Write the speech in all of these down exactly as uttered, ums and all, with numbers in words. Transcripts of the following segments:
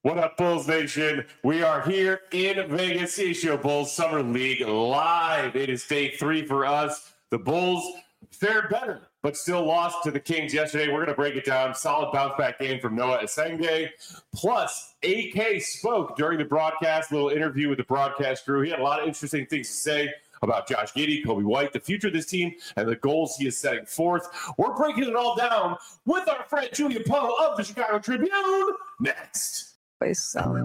What up, Bulls Nation? We are here in Vegas, C H G O Bulls Summer League live. It is day three for us. The Bulls fared better, but still lost to the Kings yesterday. We're going to break it down. Solid bounce-back game from Noah Asenge. Plus, A K spoke during the broadcast, a little interview with the broadcast crew. He had a lot of interesting things to say about Josh Giddey, Kobe White, the future of this team, and the goals he is setting forth. We're breaking it all down with our friend Julia Poe of the Chicago Tribune next. So. No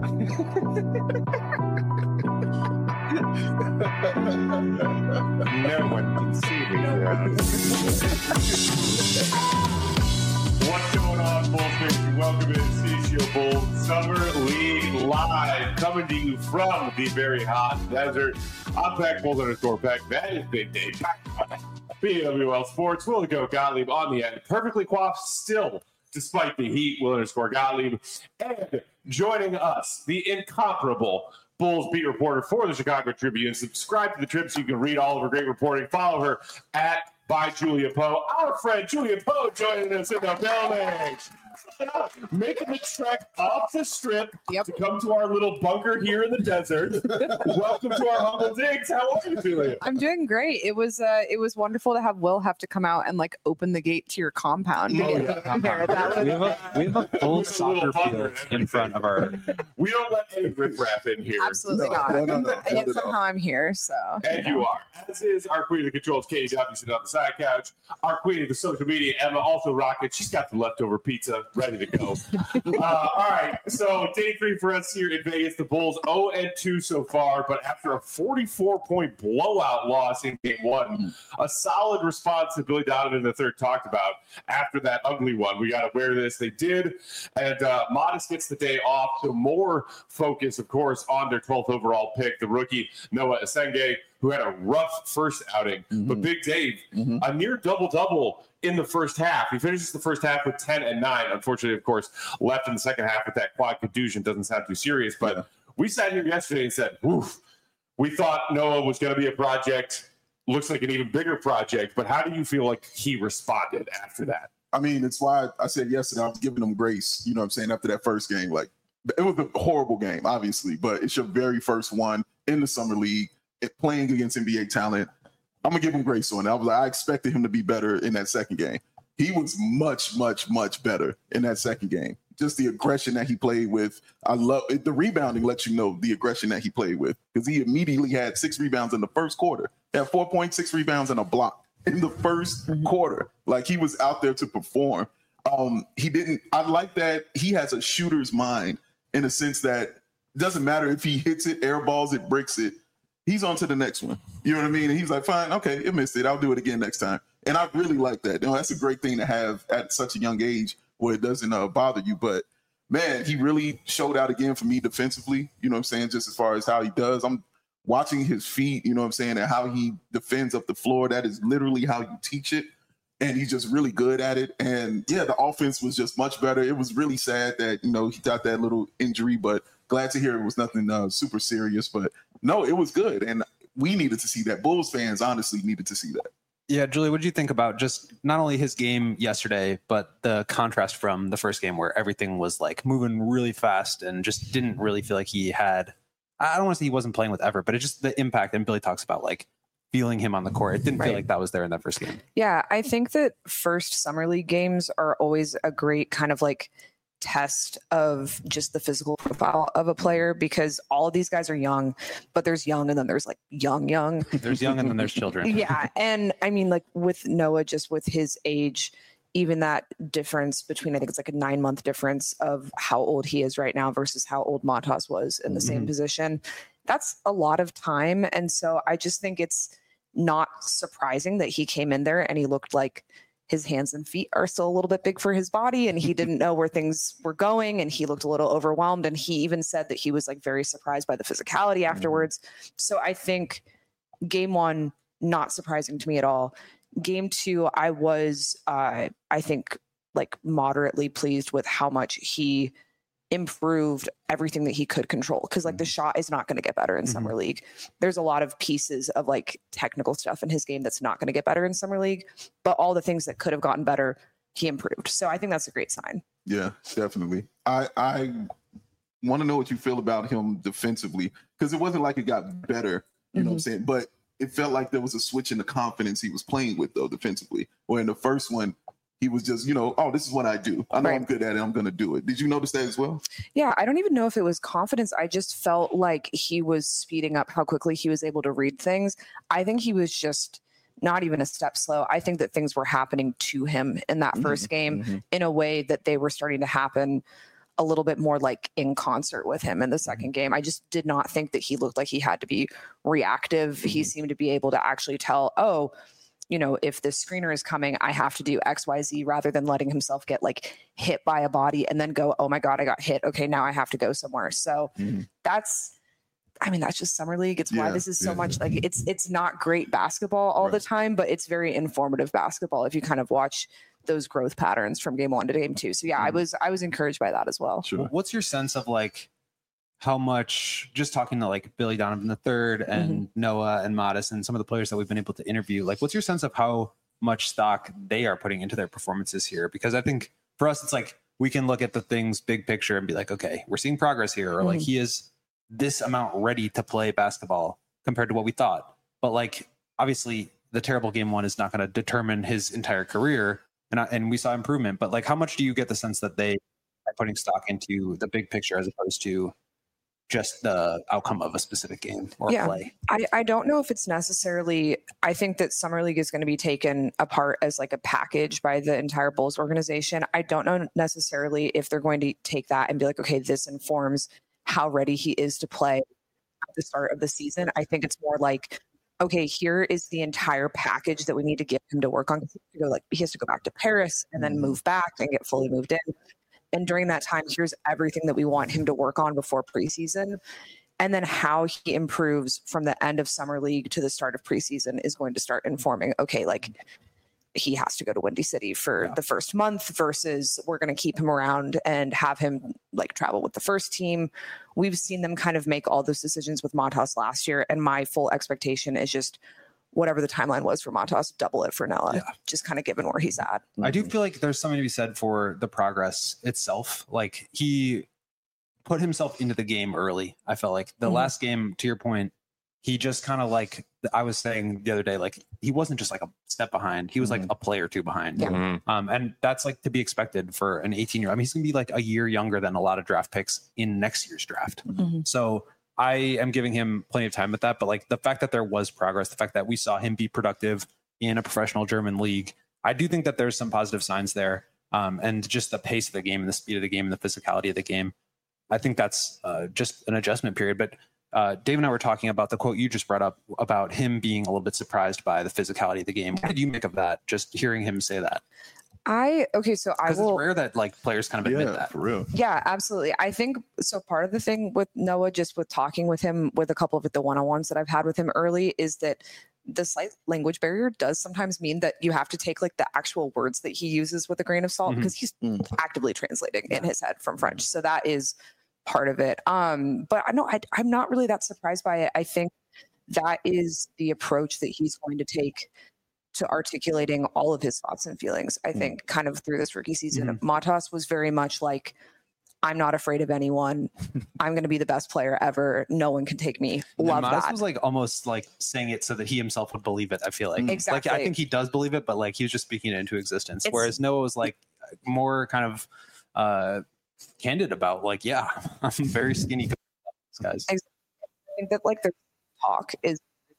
one can see me around. What's going on, Bulls Nation? Welcome to C H G O Bulls Summer League Live, coming to you from the very hot desert. I'm Pack Bulls underscore Pack. That is Big Dave. B W L Sports. Will the Go Gottlieb on the end. Perfectly coiffed still, despite the heat. Will underscore Gottlieb. And joining us, the incomparable Bulls beat reporter for the Chicago Tribune. Subscribe to the Trib so you can read all of her great reporting. Follow her at by Julia Poe. Our friend Julia Poe joining us in the building. Making the trek off the strip yep. to come to our little bunker here in the desert. Welcome to our humble digs. How are you, Julia? I'm doing great. It was uh, it was wonderful to have Will have to come out and like open the gate to your compound. Oh, yeah. There. That was, we, have a, we have a full soccer field in front of our. We don't let any riffraff in here. Absolutely no, not. No, no, no, and yet somehow I'm here. So. And you are. As is our queen of the controls, Katie Duffy, sitting on the side couch. Our queen of the social media, Emma, also rocking. She's got the leftover pizza ready to go. uh, all right, so day three for us here in Vegas. The Bulls oh and two so far, but after a forty-four point blowout loss in game one, a solid response that Billy Donovan the third talked about after that ugly one. We got to wear this. They did, and uh, Modest gets the day off, so more focus, of course, on their twelfth overall pick, the rookie Noah Asenge, who had a rough first outing. Mm-hmm. But Big Dave, mm-hmm. a near double-double in the first half. He finishes the first half with ten and nine. Unfortunately, of course, left in the second half with that quad contusion. Doesn't sound too serious, but yeah. we sat here yesterday and said, oof, we thought Noah was going to be a project. Looks like an even bigger project. But how do you feel like he responded after that? I mean, it's why I said yesterday I was giving him grace, you know what I'm saying, after that first game. Like, it was a horrible game, obviously, but it's your very first one in the Summer League, playing against N B A talent. I'm going to give him grace on it. I was like, I expected him to be better in that second game. He was much, much, much better in that second game. Just the aggression that he played with. I love it. The rebounding lets you know the aggression that he played with, because he immediately had six rebounds in the first quarter. He had four point six rebounds and a block in the first quarter. Like, he was out there to perform. Um, he didn't, I like that he has a shooter's mind in a sense that it doesn't matter if he hits it, airballs it, breaks it. He's on to the next one. You know what I mean? And he's like, fine, okay, it missed it. I'll do it again next time. And I really like that. You know, that's a great thing to have at such a young age where it doesn't uh, bother you. But, man, he really showed out again for me defensively, you know what I'm saying, just as far as how he does. I'm watching his feet, you know what I'm saying, and how he defends up the floor. That is literally how you teach it. And he's just really good at it. And, yeah, the offense was just much better. It was really sad that, you know, he got that little injury, but glad to hear it was nothing uh, super serious. But, no, it was good. And we needed to see that. Bulls fans honestly needed to see that. Yeah, Julie, what did you think about just not only his game yesterday, but the contrast from the first game where everything was like moving really fast and just didn't really feel like he had, I don't want to say he wasn't playing with effort, but it's just the impact. And Billy talks about like feeling him on the court. It didn't right. feel like that was there in that first game. Yeah, I think that first Summer League games are always a great kind of like test of just the physical profile of a player, because all of these guys are young, but there's young and then there's like young, young. There's young and then there's children. Yeah. And I mean, like with Noah, just with his age, even that difference between, I think it's like a nine month difference of how old he is right now versus how old Matas was in the mm-hmm. same position. That's a lot of time. And so I just think it's not surprising that he came in there and he looked like his hands and feet are still a little bit big for his body, and he didn't know where things were going, and he looked a little overwhelmed, and he even said that he was like very surprised by the physicality afterwards. So I think game one, not surprising to me at all. Game two, I was, uh, I think, like moderately pleased with how much he improved everything that he could control, because like the shot is not going to get better in mm-hmm. Summer League. There's a lot of pieces of like technical stuff in his game that's not going to get better in Summer League, but all the things that could have gotten better, he improved. So I think that's a great sign. Yeah, definitely. I I want to know what you feel about him defensively, because it wasn't like it got better, you know Mhm. what I'm saying? But it felt like there was a switch in the confidence he was playing with, though, defensively. Where in the first one, he was just, you know, oh, this is what I do. I know Right. I'm good at it. I'm going to do it. Did you notice that as well? Yeah, I don't even know if it was confidence. I just felt like he was speeding up how quickly he was able to read things. I think he was just not even a step slow. I think that things were happening to him in that first game Mhm. in a way that they were starting to happen a little bit more like in concert with him in the second game. I just did not think that he looked like he had to be reactive. He Mhm. seemed to be able to actually tell, oh, you know, if this screener is coming, I have to do X, Y, Z, rather than letting himself get like hit by a body and then go, oh my God, I got hit. Okay, now I have to go somewhere. So Mhm. that's, I mean, that's just summer league. It's why Yeah, this is so yeah. much like it's it's not great basketball all the Right. time, but it's very informative basketball if you kind of watch those growth patterns from game one to game two. So yeah, I Mhm. was I was encouraged by that as well. Sure. What's your sense of like how much, just talking to like Billy Donovan the third and Noah and Modest and some of the players that we've been able to interview, like what's your sense of how much stock they are putting into their performances here? Because I think for us, it's like we can look at the things big picture and be like, okay, we're seeing progress here, or like Mhm. he is this amount ready to play basketball compared to what we thought. But like obviously the terrible game one is not going to determine his entire career, and I, and we saw improvement. But like, how much do you get the sense that they are putting stock into the big picture as opposed to just the outcome of a specific game or Yeah. play? I, I don't know if it's necessarily, I think that Summer League is going to be taken apart as like a package by the entire Bulls organization. I don't know necessarily if they're going to take that and be like, okay, this informs how ready he is to play at the start of the season. I think it's more like, okay, here is the entire package that we need to get him to work on. He has to go, like, he has to go back to Paris and then move back and get fully moved in. And during that time, here's everything that we want him to work on before preseason. And then how he improves from the end of summer league to the start of preseason is going to start informing, okay, like he has to go to Windy City for Yeah. the first month versus we're going to keep him around and have him like travel with the first team. We've seen them kind of make all those decisions with Montas last year. And my full expectation is just whatever the timeline was for Montas, double it for Noah, Yeah. just kind of given where he's at. I do feel like there's something to be said for the progress itself. Like he put himself into the game early. I felt like the Mhm. last game, to your point, he just kind of like I was saying the other day, like he wasn't just like a step behind. He was like a play or two behind. Yeah. Mhm. Um, and that's like to be expected for an eighteen year. I mean, he's gonna be like a year younger than a lot of draft picks in next year's draft. Mhm. So I am giving him plenty of time with that. But like the fact that there was progress, the fact that we saw him be productive in a professional German league, I do think that there's some positive signs there. Um, and just the pace of the game and the speed of the game and the physicality of the game. I think that's uh, just an adjustment period. But uh, Dave and I were talking about the quote you just brought up about him being a little bit surprised by the physicality of the game. What did you make of that? Just hearing him say that, I, okay, so I because it's will. rare that like players kind of admit Yeah, that. for real. Yeah, absolutely. I think so. Part of the thing with Noah, just with talking with him, with a couple of the one-on-ones that I've had with him early, is that the slight language barrier does sometimes mean that you have to take like the actual words that he uses with a grain of salt Mhm. because he's Mm. actively translating in his head from French. So that is part of it. Um, but I know I, I'm not really that surprised by it. I think that is the approach that he's going to take to articulating all of his thoughts and feelings. I think kind of through this rookie season, Matas was very much like, I'm not afraid of anyone. I'm going to be the best player ever. No one can take me. And Love Modest that. was like almost like saying it so that he himself would believe it. I feel like, Exactly. like I think he does believe it, but like he was just speaking it into existence. It's- Whereas Noah was like more kind of uh, candid about like, yeah, I'm very skinny, guys. I think that like the talk is,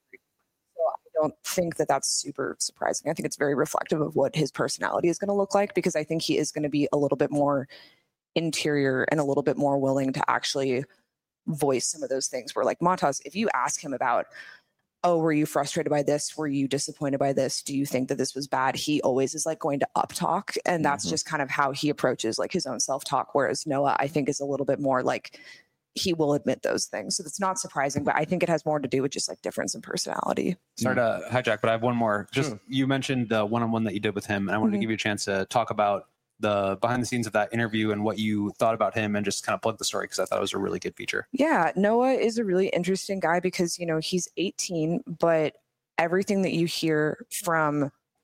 so I don't think that that's super surprising. I think it's very reflective of what his personality is going to look like, because I think he is going to be a little bit more interior and a little bit more willing to actually voice some of those things where like Matas, if you ask him about, oh, were you frustrated by this? Were you disappointed by this? Do you think that this was bad? He always is like going to up talk. And that's Mhm. just kind of how he approaches like his own self-talk. Whereas Noah, I think, is a little bit more like he will admit those things. So it's not surprising, but I think it has more to do with just like difference in personality. Sorry to hijack, but I have one more. Just Sure. you mentioned the one-on-one that you did with him, and I wanted Mhm. to give you a chance to talk about the behind the scenes of that interview and what you thought about him, and just kind of plug the story because I thought it was a really good feature. Yeah, Noah is a really interesting guy because, you know, he's eighteen, but everything that you hear from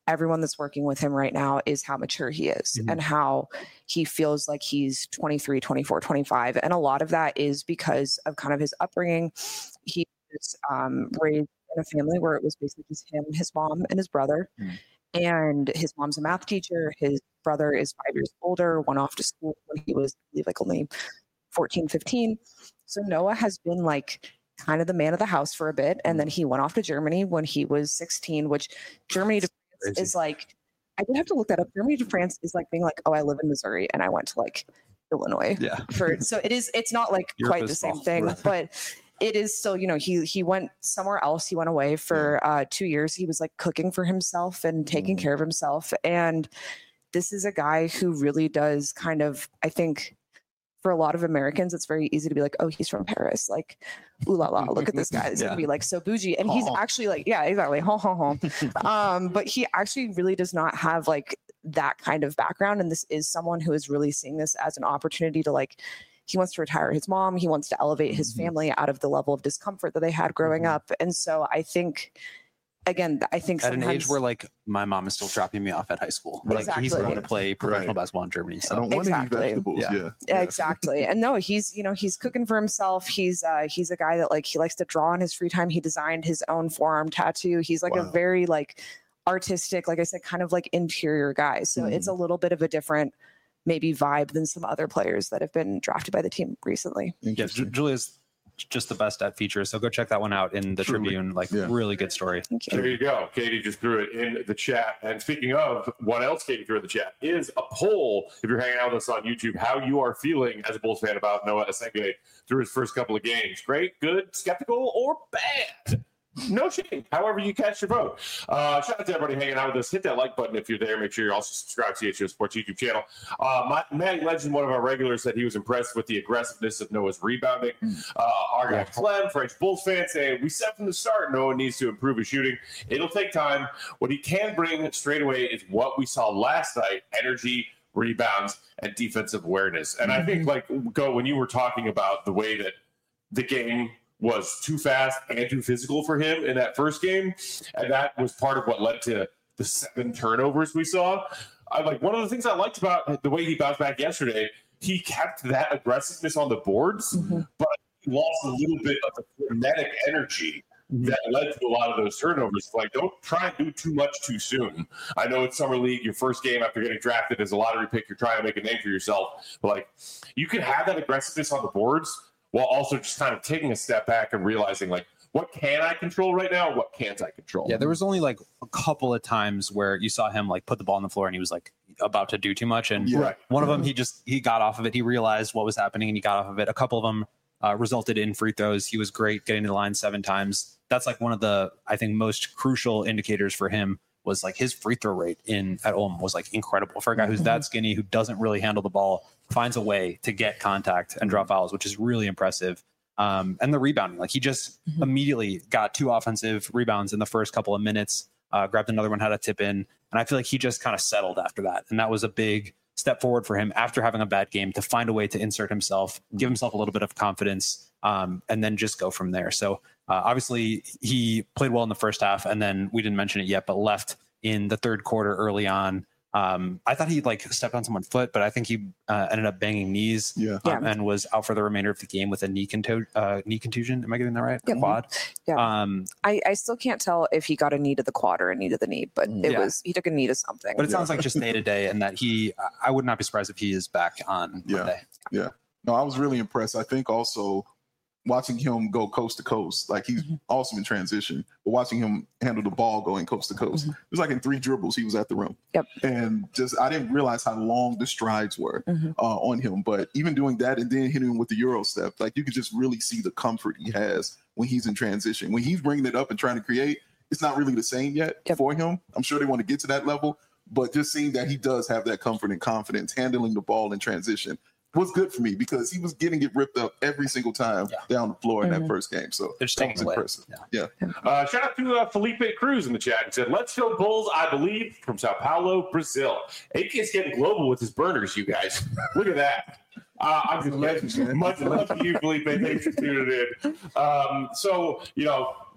everyone that's working with him right now is how mature he is Mhm. and how he feels like he's twenty-three, twenty-four, twenty-five. And a lot of that is because of kind of his upbringing. He was um, raised in a family where it was basically just him, his mom, and his brother. Mhm. And his mom's a math teacher. His brother is five years older, went off to school when he was, I believe, like only fourteen, fifteen. So Noah has been like kind of the man of the house for a bit. And then he went off to Germany when he was sixteen, which Germany to France Crazy. is like, I did have to look that up. Germany to France is like being like, oh, I live in Missouri and I went to like Illinois. Yeah. For so it is, it's not like Europe quite the is same small. thing, Right. but it is still, you know, he he went somewhere else. He went away for uh, two years. He was like cooking for himself and taking Mhm. care of himself. And this is a guy who really does kind of, I think, for a lot of Americans, it's very easy to be like, oh, he's from Paris. Like, ooh la la, look at this guy. It's Yeah. gonna be like so bougie. And he's Ho, ho. actually like, yeah, exactly. Ho, ho, ho. Um, but he actually really does not have like that kind of background. And this is someone who is really seeing this as an opportunity to like, he wants to retire his mom. He wants to elevate his Mhm. family out of the level of discomfort that they had growing Mhm. up. And so I think, again, I think At an age sometimes- where like my mom is still dropping me off at high school. Like he's Exactly. going to play professional Right. basketball in Germany. I So don't want Exactly. any vegetables. Yeah. Yeah. Yeah, exactly. And no, he's, you know, he's cooking for himself. He's uh he's a guy that like he likes to draw in his free time. He designed his own forearm tattoo. He's like a Wow. very like artistic, like I said, kind of like interior guy. So it's a little bit of a different maybe vibe than some other players that have been drafted by the team recently. yeah, Ju- Interesting. Julia's just the best at features. So go check that one out in the Truly. Tribune. Like Yeah. really good story. Thank There you. you go. Katie just threw it in the chat. And speaking of what else Katie threw in the chat is a poll. If you're hanging out with us on YouTube, how you are feeling as a Bulls fan about Noah Asenge through his first couple of games. Great, good, skeptical, or bad? No shame. However you cast your vote. Uh, shout out to everybody hanging out with us. Hit that like button if you're there. Make sure you're also subscribed to the H O Sports YouTube channel. Uh, my, Matty Legend, one of our regulars, said he was impressed with the aggressiveness of Noah's rebounding. Uh, our guy Clem, French Bulls fan, saying, we said from the start Noah needs to improve his shooting. It'll take time. What he can bring straight away is what we saw last night, energy, rebounds, and defensive awareness. And I think, like, Go, when you were talking about the way that the game was too fast and too physical for him in that first game, and that was part of what led to the seven turnovers we saw. I like one of the things I liked about the way he bounced back yesterday. He kept that aggressiveness on the boards, Mhm. but he lost a little bit of the frenetic energy that led to a lot of those turnovers. Like, don't try and do too much too soon. I know it's summer league, your first game after getting drafted as a lottery pick, you're trying to make a name for yourself. But like, you can have that aggressiveness on the boards while also just kind of taking a step back and realizing, like, what can I control right now? What can't I control? Yeah, there was only like a couple of times where you saw him like put the ball on the floor and he was like about to do too much. And Yeah. Right. one of them, he just he got off of it. He realized what was happening and he got off of it. A couple of them uh, resulted in free throws. He was great getting to the line seven times. That's like one of the I think most crucial indicators for him was like his free throw rate in at Ulm was like incredible for a guy who's that skinny, who doesn't really handle the ball, finds a way to get contact and draw fouls, which is really impressive. Um, and the rebounding, like he just Mhm. immediately got two offensive rebounds in the first couple of minutes, uh, grabbed another one, had a tip in. And I feel like he just kind of settled after that. And that was a big step forward for him after having a bad game to find a way to insert himself, give himself a little bit of confidence, um, and then just go from there. So uh, obviously he played well in the first half, and then we didn't mention it yet, but left in the third quarter early on. Um, I thought he like stepped on someone's foot, but I think he uh, ended up banging knees Yeah. um, and was out for the remainder of the game with a knee, contu- uh, knee contusion. Am I getting that right? Yep. Quad. Yeah. Um, I, I still can't tell if he got a knee to the quad or a knee to the knee, but it Yeah. was he took a knee to something. but it Yeah. sounds like just day to day, and that he, I would not be surprised if he is back on Yeah. Monday. No, I was really impressed. I think also watching him go coast to coast, like he's Mhm. awesome in transition, but watching him handle the ball going coast to coast, Mhm. it was like in three dribbles, he was at the rim. Yep. And just, I didn't realize how long the strides were Mhm. uh, on him. But even doing that and then hitting him with the Euro step, like you could just really see the comfort he has when he's in transition. When he's bringing it up and trying to create, it's not really the same yet Yep. for him. I'm sure they want to get to that level, but just seeing that he does have that comfort and confidence handling the ball in transition was good for me because he was getting it ripped up every single time Yeah. down the floor in Mhm. that first game. So They're just that taking was away. impressive. Yeah. Yeah. Uh, shout out to uh, Felipe Cruz in the chat. He said, let's go Bulls, I believe, from Sao Paulo, Brazil. A K's getting global with his burners, you guys. Look at that. Uh, I'm just much love to you, Felipe. Thanks for tuning in. Um, so, you know,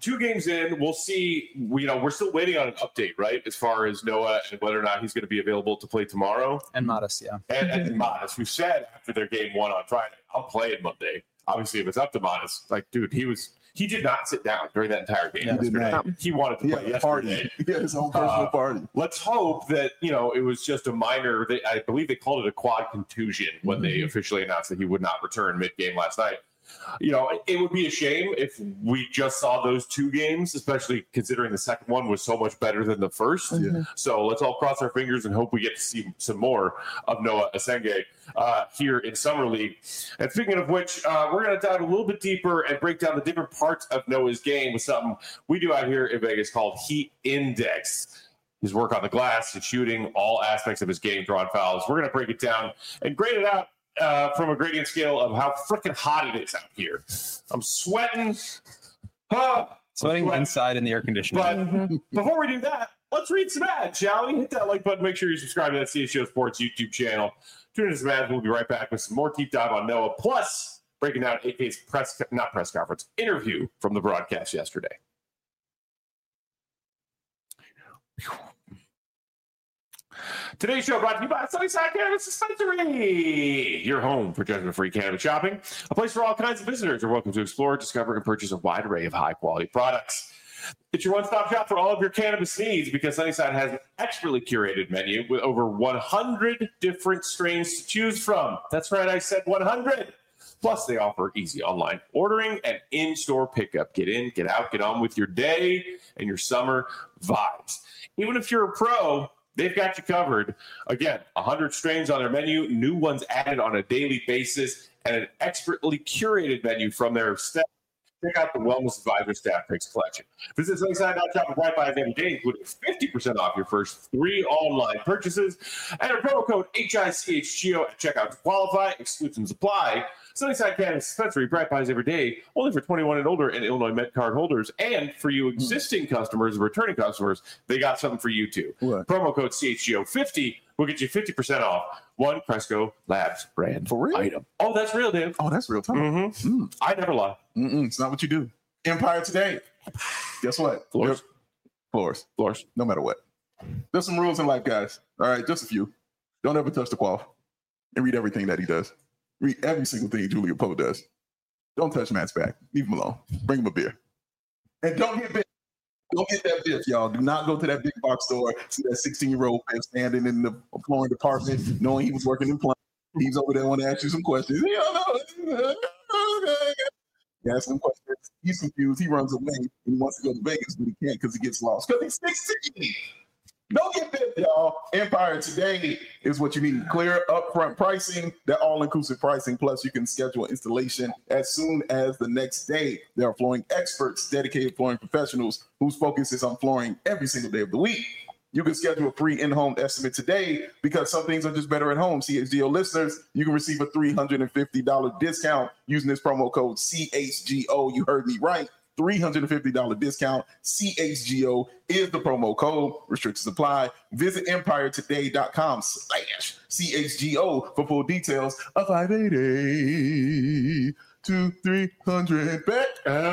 two games in, we'll see. You know, we're still waiting on an update, right, as far as Noah and whether or not he's going to be available to play tomorrow. And Modest, yeah. And, and Modest, who said after their game one on Friday, I'll play it Monday. Obviously, if it's up to Modest, like, dude, he was he did not sit down during that entire game He did yesterday. not. He wanted to He play had a party. yesterday. He had his own personal Uh, party. Let's hope that, you know, it was just a minor, they, I believe they called it a quad contusion when they Mm-hmm. officially announced that he would not return mid-game last night. You know, it, it would be a shame if we just saw those two games, especially considering the second one was so much better than the first. Yeah. So let's all cross our fingers and hope we get to see some more of Noah Asenge uh, here in Summer League. And speaking of which, uh, we're going to dive a little bit deeper and break down the different parts of Noah's game with something we do out here in Vegas called Heat Index. His work on the glass, his shooting, all aspects of his game, drawing fouls. We're going to break it down and grade it out uh, from a gradient scale of how freaking hot it is out here. I'm sweating. Ah, Sweating sweating. inside in the air conditioning. But before we do that, let's read some ads, shall we? Hit that like button. Make sure you subscribe to that C H G O Sports YouTube channel. Tune in to some ads. We'll be right back with some more deep dive on Noah. Plus, breaking down A K's press, not press conference, interview from the broadcast yesterday. Today's show brought to you by Sunnyside Cannabis Dispensary, your home for judgment-free cannabis shopping, a place for all kinds of visitors are welcome to explore, discover, and purchase a wide array of high-quality products. It's your one-stop shop for all of your cannabis needs because Sunnyside has an expertly curated menu with over one hundred different strains to choose from. That's right, I said one hundred. Plus, they offer easy online ordering and in-store pickup. Get in, get out, get on with your day and your summer vibes. Even if you're a pro, they've got you covered. Again, one hundred strains on their menu, new ones added on a daily basis, and an expertly curated menu from their staff. Check out the Wellness Advisor Staff Picks collection. Visit Sunnyside dot shop with Wi-Fi every day, including fifty percent off your first three online purchases. Enter promo code H I C H G O at checkout to qualify. Exclusions apply. Sunnyside Cannabis Dispensary, bright buys every day, only for twenty-one and older and Illinois Met card holders. And for you existing customers, returning customers, they got something for you too. What? Promo code C H G O fifty will get you fifty percent off one Cresco Labs brand For real? item. Oh, that's real, Dave. Oh, that's real time. Mm-hmm. Mm. I never lie. Mm-mm, it's not what you do. Empire Today. Guess what? Floors. Yep. Floors. Floors. No matter what. There's some rules in life, guys. All right, just a few. Don't ever touch the qual and read everything that he does. Read every single thing Julia Poe does. Don't touch Matt's back. Leave him alone. Bring him a beer. And don't get bit. Don't get that biff, y'all. Do not go to that big box store, see that sixteen-year-old standing in the flooring department, knowing he was working in plumbing. He's over there want to ask you some questions. You don't know. You ask him questions. He's confused. He runs away. He wants to go to Vegas, but he can't because he gets lost. Because he's sixteen. Don't get bit, y'all. Empire Today is what you need. Clear upfront pricing, that all-inclusive pricing, plus you can schedule installation as soon as the next day. There are flooring experts, dedicated flooring professionals whose focus is on flooring every single day of the week. You can schedule a free in-home estimate today because some things are just better at home. C H G O listeners, you can receive a three hundred fifty dollars discount using this promo code C H G O. You heard me right. three hundred fifty dollars discount. C H G O is the promo code. Restrictions apply. Visit empire today dot com slash C H G O for full details. A five eighty to three hundred bet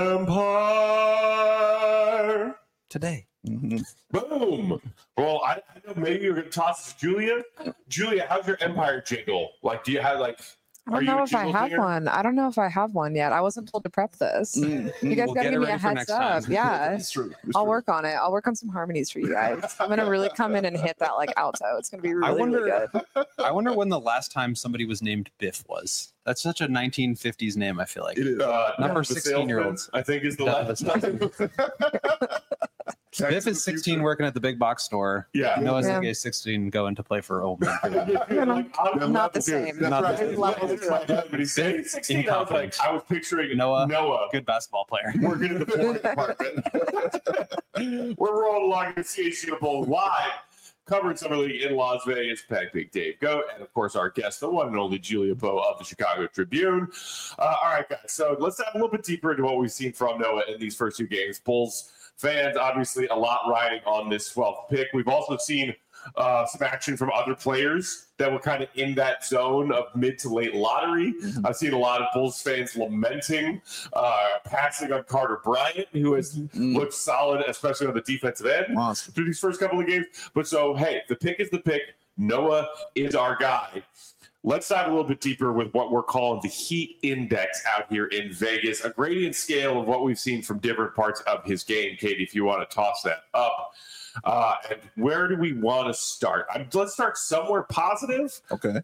Empire. Today. Mm-hmm. Boom. Well, I, I know maybe you're going to toss it to Julia. Julia, how's your Empire jingle? Like, do you have like, I are don't you know a if I jingle have singer? one. I don't know if I have one yet. I wasn't told to prep this. Mm-hmm. You guys We'll gotta get give it me a ready for heads next up. time. Yeah. It's true. It's I'll true. work on it. I'll work on some harmonies for you guys. I'm gonna really come in and hit that like alto. It's gonna be really, wonder- really good. I wonder when the last time somebody was named Biff was. That's such a nineteen fifties name, I feel like. It is. Uh, Number the sixteen-year-olds. salesman, I think is the Yeah, last that's Biff is sixteen working at the big box store. Yeah. Noah's Yeah. yeah. sixteen going to play for Old Man. You know, Like, I'm not the dude. same. That's Not right. His levels It's are like that, but he's saying sixteen. I was like, Incompetent. I was picturing Noah. Noah Good basketball player. working in the flooring department. We're rolling along to C H G O Bowl live, covering Summer League in Las Vegas. Peg Big Dave Goat, and of course our guest, the one and only Julia Poe of the Chicago Tribune. Uh, all right, guys. So let's dive a little bit deeper into what we've seen from Noah in these first two games. Bulls fans, obviously, a lot riding on this twelfth pick. We've also seen uh, some action from other players that were kind of in that zone of mid to late lottery. Mm-hmm. I've seen a lot of Bulls fans lamenting uh, passing on Carter Bryant, who has mm-hmm. looked solid, especially on the defensive end awesome. through these first couple of games. But so, hey, the pick is the pick. Noah is our guy. Let's dive a little bit deeper with what we're calling the heat index out here in Vegas, a gradient scale of what we've seen from different parts of his game. Katie, if you want to toss that up. Uh, and where do we want to start? I'm, let's start somewhere positive. Okay.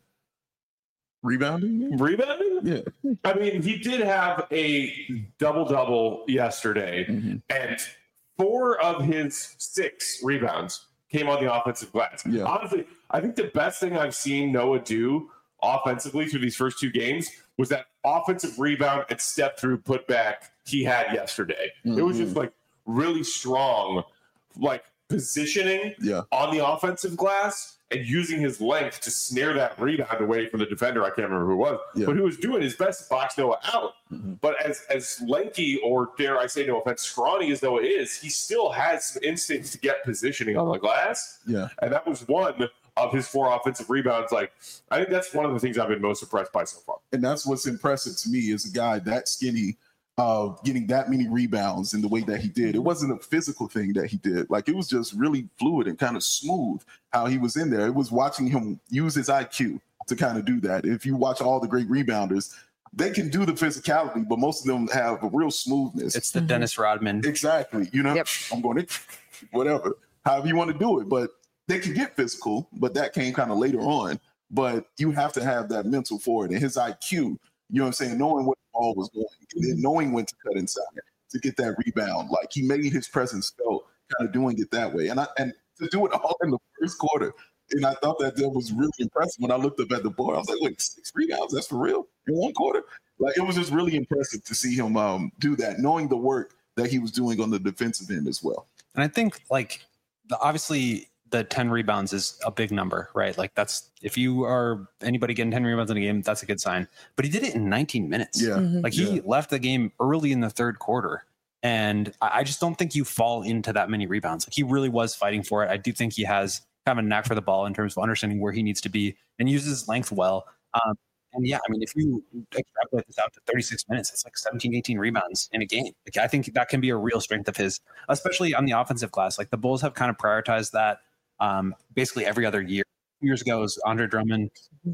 Rebounding? Rebounding? Yeah. I mean, he did have a double-double yesterday, mm-hmm. and four of his six rebounds came on the offensive glass. Yeah. Honestly, I think the best thing I've seen Noah do offensively through these first two games was that offensive rebound and step through put back he had yesterday. Mm-hmm. It was just like really strong, like positioning yeah. on the offensive glass and using his length to snare that rebound away from the defender. I can't remember who it was, yeah. but who was doing his best to box Noah out. Mm-hmm. But as as lanky, or dare I say no offense, scrawny as Noah is, he still has some instincts to get positioning on the glass. Yeah. And that was one of his four offensive rebounds. Like, I think that's one of the things I've been most impressed by so far. And that's what's impressive to me is a guy that skinny, uh, getting that many rebounds in the way that he did. It wasn't a physical thing that he did. Like, it was just really fluid and kind of smooth how he was in there. It was watching him use his I Q to kind of do that. If you watch all the great rebounders, they can do the physicality, but most of them have a real smoothness. It's the mm-hmm. Dennis Rodman. Exactly. You know, yep. I'm going to, whatever, however you want to do it. But they can get physical, but that came kind of later on. But you have to have that mental for it. And his I Q, you know what I'm saying, knowing what the ball was going, and then knowing when to cut inside to get that rebound. Like, he made his presence felt, kind of doing it that way. And I and to do it all in the first quarter. And I thought that that was really impressive. When I looked up at the board, I was like, wait, six rebounds? That's for real? In one quarter? Like, it was just really impressive to see him um, do that, knowing the work that he was doing on the defensive end as well. And I think, like, the, obviously the ten rebounds is a big number, right? Like, that's, if you are anybody getting ten rebounds in a game, that's a good sign. But he did it in nineteen minutes. Yeah. Mm-hmm. Like, he yeah. left the game early in the third quarter. And I just don't think you fall into that many rebounds. Like, he really was fighting for it. I do think he has kind of a knack for the ball in terms of understanding where he needs to be and uses his length well. Um, and yeah, I mean, if you extrapolate this out to thirty-six minutes, it's like seventeen, eighteen rebounds in a game. Like, I think that can be a real strength of his, especially on the offensive glass. Like, the Bulls have kind of prioritized that um, basically every other year. Two years ago, was Andre Drummond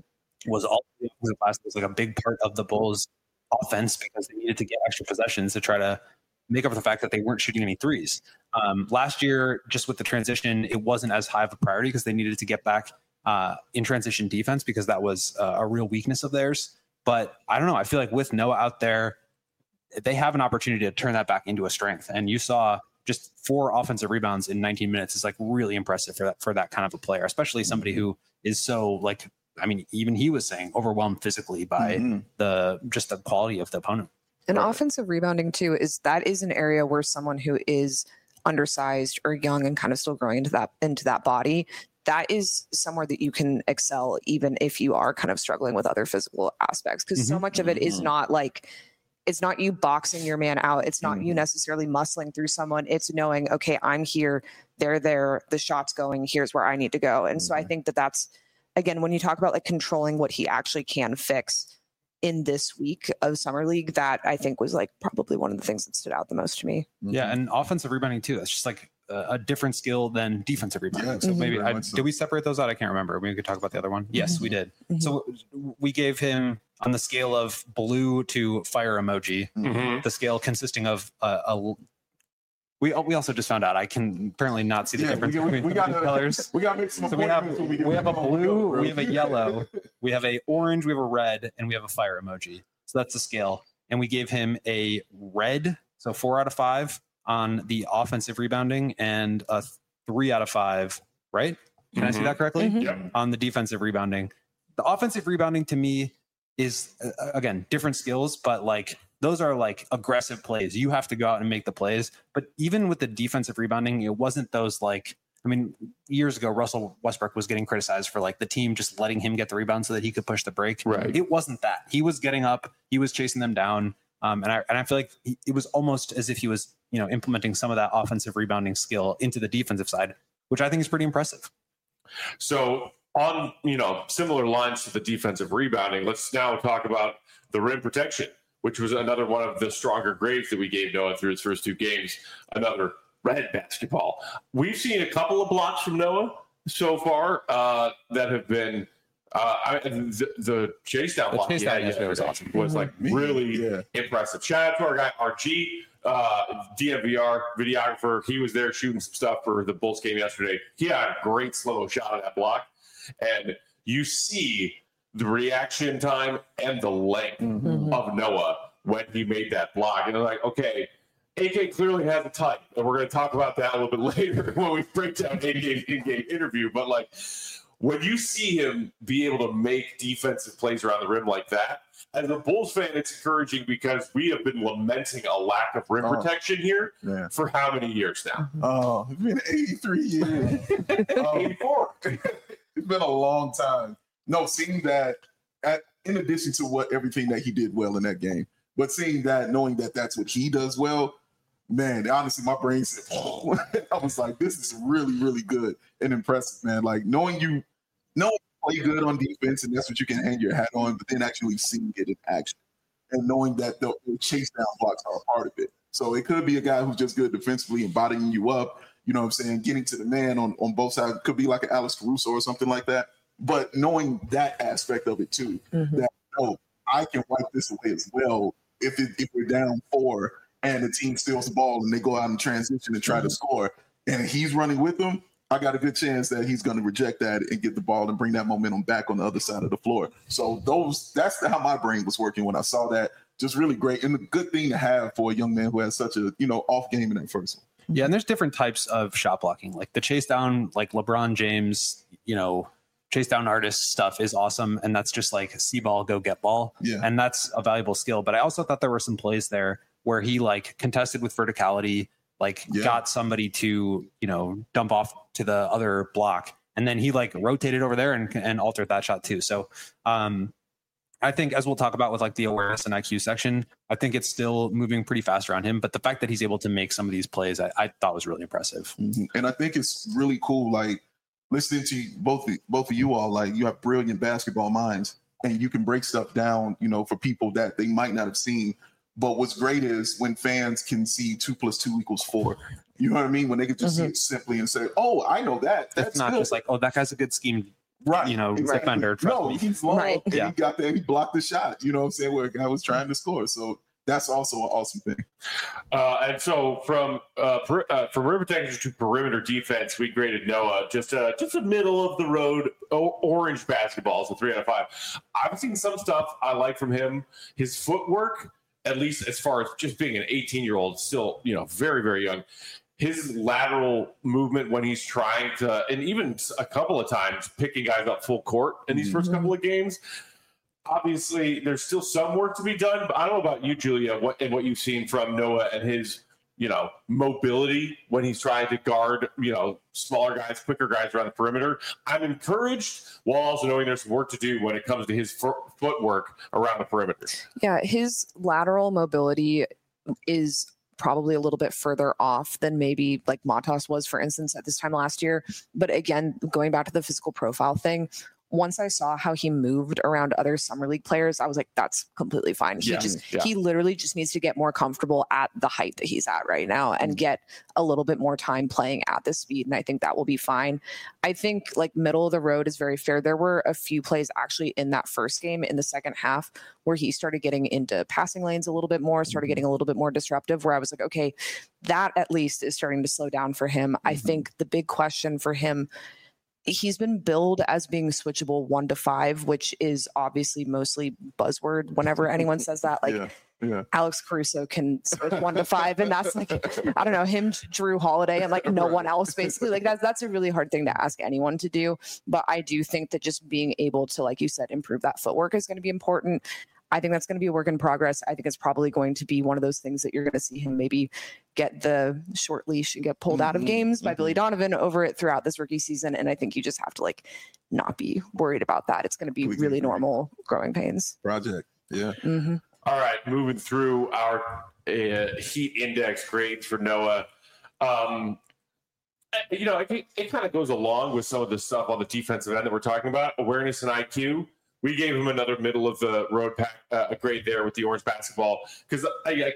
was all the offensive glass. It was like a big part of the Bulls offense because they needed to get extra possessions to try to make up for the fact that they weren't shooting any threes. Um, last year, just with the transition, it wasn't as high of a priority because they needed to get back uh, in transition defense because that was uh, a real weakness of theirs. But I don't know. I feel like with Noah out there, they have an opportunity to turn that back into a strength. And you saw just four offensive rebounds in nineteen minutes is like really impressive for that, for that kind of a player, especially somebody who is so, like, I mean, even he was saying overwhelmed physically by mm-hmm. the, just the quality of the opponent. And offensive rebounding too, is that is an area where someone who is undersized or young and kind of still growing into that into that body, that is somewhere that you can excel even if you are kind of struggling with other physical aspects. Because mm-hmm. so much of it is not like, it's not you boxing your man out. It's not mm-hmm. you necessarily muscling through someone. It's knowing, okay, I'm here, they're there, the shot's going, here's where I need to go. And mm-hmm. so I think that that's, again, when you talk about like controlling what he actually can fix in this week of Summer League, that I think was like probably one of the things that stood out the most to me. Yeah. And offensive rebounding too. That's just like a, a different skill than defensive rebounding. Yeah, so mm-hmm. maybe I, so. Did we separate those out? I can't remember. We could talk about the other one. Yes, mm-hmm. we did. Mm-hmm. So we gave him on the scale of blue to fire emoji, mm-hmm. the scale consisting of uh, a, We we also just found out I can apparently not see the yeah, difference we, we, between we got colors. We got to make some so we have we, we have a blue, we have a yellow, we have a orange, we have a red, and we have a fire emoji. So that's the scale. And we gave him a red, so four out of five on the offensive rebounding, and a three out of five. Right? Can mm-hmm. I see that correctly? Mm-hmm. Yeah. On the defensive rebounding, the offensive rebounding to me is uh, again different skills, but like. Those are like aggressive plays. You have to go out and make the plays. But even with the defensive rebounding, it wasn't those like, I mean, years ago, Russell Westbrook was getting criticized for like the team just letting him get the rebound so that he could push the break. Right. It wasn't that. He was getting up, he was chasing them down. Um, and I and I feel like he, it was almost as if he was, you know, implementing some of that offensive rebounding skill into the defensive side, which I think is pretty impressive. So on, you know, similar lines to the defensive rebounding, let's now talk about the rim protection, which was another one of the stronger grades that we gave Noah through his first two games. Another red basketball. We've seen a couple of blocks from Noah so far uh, that have been uh, I, the, the chase down The block chase he had down yesterday was yesterday awesome. was like Mhm. really Yeah. impressive. Shout out to our guy R G, uh, D M V R videographer. He was there shooting some stuff for the Bulls game yesterday. He had a great slow shot of that block, and you see the reaction time and the length Mhm. of Noah when he made that block. And they're like, okay, A K clearly has a type. And we're going to talk about that a little bit later when we break down A K's in-game interview. But like, when you see him be able to make defensive plays around the rim like that, as a Bulls fan, it's encouraging because we have been lamenting a lack of rim Oh. protection here Yeah. for how many years now? Oh, it's been eighty-three years. Um, eighty-four. It's been a long time. No, seeing that, at, in addition to what everything that he did well in that game, but seeing that, knowing that that's what he does well, man, honestly, my brain said, oh. I was like, this is really, really good and impressive, man. Like knowing you, knowing you play good on defense and that's what you can hang your hat on, but then actually seeing it in action and knowing that the, the chase down blocks are a part of it. So it could be a guy who's just good defensively and bodying you up, you know what I'm saying, getting to the man on, on both sides. Could be like an Alex Caruso or something like that. But knowing that aspect of it too, Mhm. that no, I can wipe this away as well if it, if we're down four and the team steals the ball and they go out in transition and try to score, and he's running with them, I got a good chance that he's going to reject that and get the ball and bring that momentum back on the other side of the floor. So those that's how my brain was working when I saw that. Just really great and a good thing to have for a young man who has such a you know off game in that first one. Yeah, and there's different types of shot blocking. Like the chase down, like LeBron James, you know, chase down artist stuff is awesome. And that's just like see ball, go get ball. Yeah. And that's a valuable skill. But I also thought there were some plays there where he like contested with verticality, like Yeah. got somebody to, you know, dump off to the other block. And then he like rotated over there and, and altered that shot too. So um, I think as we'll talk about with like the awareness and I Q section, I think it's still moving pretty fast around him. But the fact that he's able to make some of these plays, I, I thought was really impressive. Mhm. And I think it's really cool, like listening to both both of you all. Like you have brilliant basketball minds, and you can break stuff down, you know, for people that they might not have seen. But what's great is when fans can see two plus two equals four. You know what I mean? When they can just see it simply and say, "Oh, I know that." That's It's not good. just like, oh, that guy's a good scheme, right, you know, exactly. defender. Trust No, me. he's long, Right. and Yeah. he got there. He blocked the shot. You know what I'm saying? Where a guy was trying to score. So that's also an awesome thing. Uh, and so from uh, per, uh, from rim protection to perimeter defense, we graded Noah just a just a middle of the road o- orange basketball, so three out of five. I've seen some stuff I like from him. His footwork, at least as far as just being an eighteen year old, still you know very very young. His lateral movement when he's trying to, and even a couple of times picking guys up full court in these first Mhm. couple of games. Obviously, there's still some work to be done, but I don't know about you, Julia, what and what you've seen from Noah and his, you know, mobility when he's trying to guard, you know, smaller guys, quicker guys around the perimeter. I'm encouraged while also knowing there's work to do when it comes to his fo- footwork around the perimeter. Yeah, his lateral mobility is probably a little bit further off than maybe like Matas was, for instance, at this time last year. But again, going back to the physical profile thing, once I saw how he moved around other summer league players, I was like, that's completely fine. He Yeah, just yeah. he literally just needs to get more comfortable at the height that he's at right now and get a little bit more time playing at this speed. And I think that will be fine. I think like middle of the road is very fair. There were a few plays actually in that first game in the second half where he started getting into passing lanes a little bit more, started getting a little bit more disruptive, where I was like, okay, that at least is starting to slow down for him. I think the big question for him, he's been billed as being switchable one to five, which is obviously mostly buzzword whenever anyone says that. Like yeah, yeah. Alex Caruso can switch one to five, and that's like, I don't know, him, Drew Holiday, and like no one else, basically. Like that's that's a really hard thing to ask anyone to do. But I do think that just being able to, like you said, improve that footwork is going to be important. I think that's going to be a work in progress. I think it's probably going to be one of those things that you're going to see him maybe get the short leash and get pulled out of Mhm, games by mhm. Billy Donovan over it throughout this rookie season. And I think you just have to like not be worried about that. It's going to be Completely really agree. normal growing pains. Project. Yeah. hmm All right, moving through our uh, heat index grades for Noah. Um, you know, it, it kind of goes along with some of the stuff on the defensive end that we're talking about, awareness and I Q. We gave him another middle of the road pack, uh, a grade there with the orange basketball because I, I,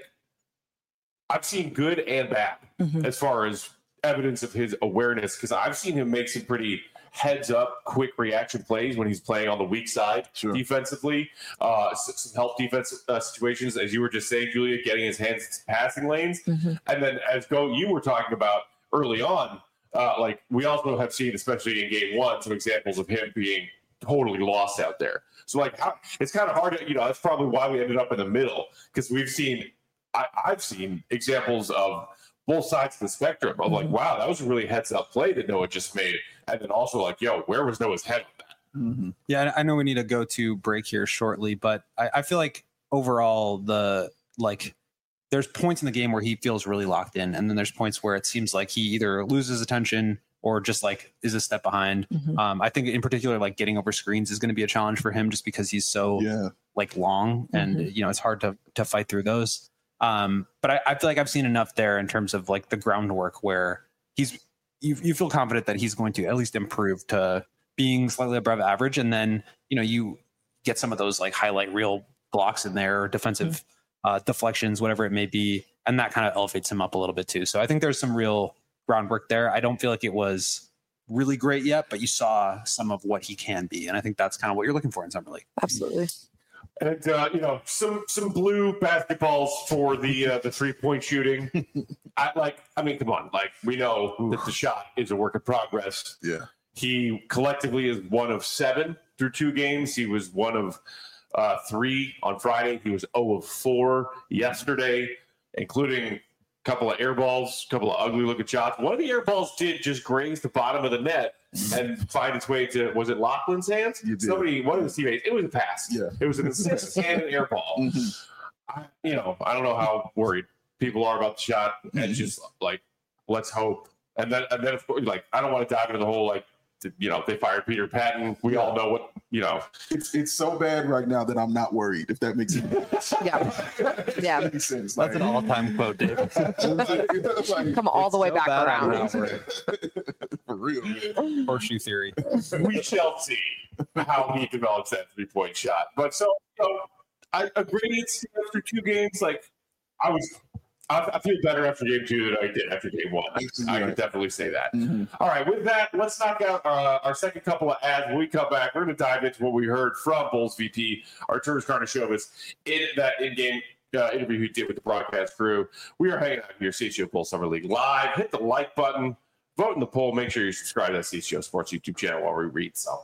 I've seen good and bad mm-hmm. as far as evidence of his awareness because I've seen him make some pretty heads up, quick reaction plays when he's playing on the weak side sure. defensively. Uh, some help defense uh, situations, as you were just saying, Julia, getting his hands in passing lanes. Mm-hmm. And then as Go, you were talking about early on, uh, like we also have seen, especially in game one, some examples of him being totally lost out there. So like, how, it's kind of hard to, you know, that's probably why we ended up in the middle because we've seen, I, I've seen examples of both sides of the spectrum of like, wow, that was a really heads up play that Noah just made. And then also like, yo, where was Noah's head on that? Mm-hmm. Yeah, I know we need to go to break here shortly, but I, I feel like overall the like there's points in the game where he feels really locked in. And then there's points where it seems like he either loses attention or just like is a step behind. Mm-hmm. Um, I think in particular, like getting over screens is going to be a challenge for him just because he's so yeah. like long and, mm-hmm. you know, it's hard to to fight through those. Um, but I, I feel like I've seen enough there in terms of like the groundwork where he's, you, you feel confident that he's going to at least improve to being slightly above average. And then, you know, you get some of those like highlight reel blocks in there, or defensive mm-hmm. uh, deflections, whatever it may be. And that kind of elevates him up a little bit too. So I think there's some real groundwork there. I don't feel like it was really great yet, but you saw some of what he can be. And I think that's kind of what you're looking for in Summer League. Absolutely. And uh, you know, some some blue basketballs for the uh, the three point shooting. I like. I mean, come on. Like we know Oof. that the shot is a work in progress. Yeah. He collectively is one of seven through two games. He was one of uh, three on Friday. He was zero of four yesterday, including a couple of air balls, a couple of ugly looking shots. One of the air balls did just graze the bottom of the net and find its way to, was it Laughlin's hands? Somebody, one of his teammates, it was a pass. Yeah. It was an assist and an air ball. Mm-hmm. I, you know, I don't know how worried people are about the shot mm-hmm. and just like, let's hope. And then, and then of course, like, I don't want to dive into the whole, like, you know, they fired Peter Patton. We all know what, you know. It's it's so bad right now that I'm not worried, if that makes sense. Yeah. Yeah. That makes sense. That's like, an all-time quote, Dave. Like, come all the way so back around. For real, man. Horseshoe theory. We shall see how he develops that three-point shot. But so, you know, I agree it's after two games. Like, I was I, I feel better after game two than I did after game one. I, I can definitely say that. Mm-hmm. All right, with that, let's knock out uh, our second couple of ads. When we come back, we're going to dive into what we heard from Bulls V P Arturas Karnisovas in that in-game uh, interview he did with the broadcast crew. We are hanging out here, C H G O Bulls Summer League Live. Hit the like button. Vote in the poll. Make sure you subscribe to that C H G O Sports YouTube channel while we read some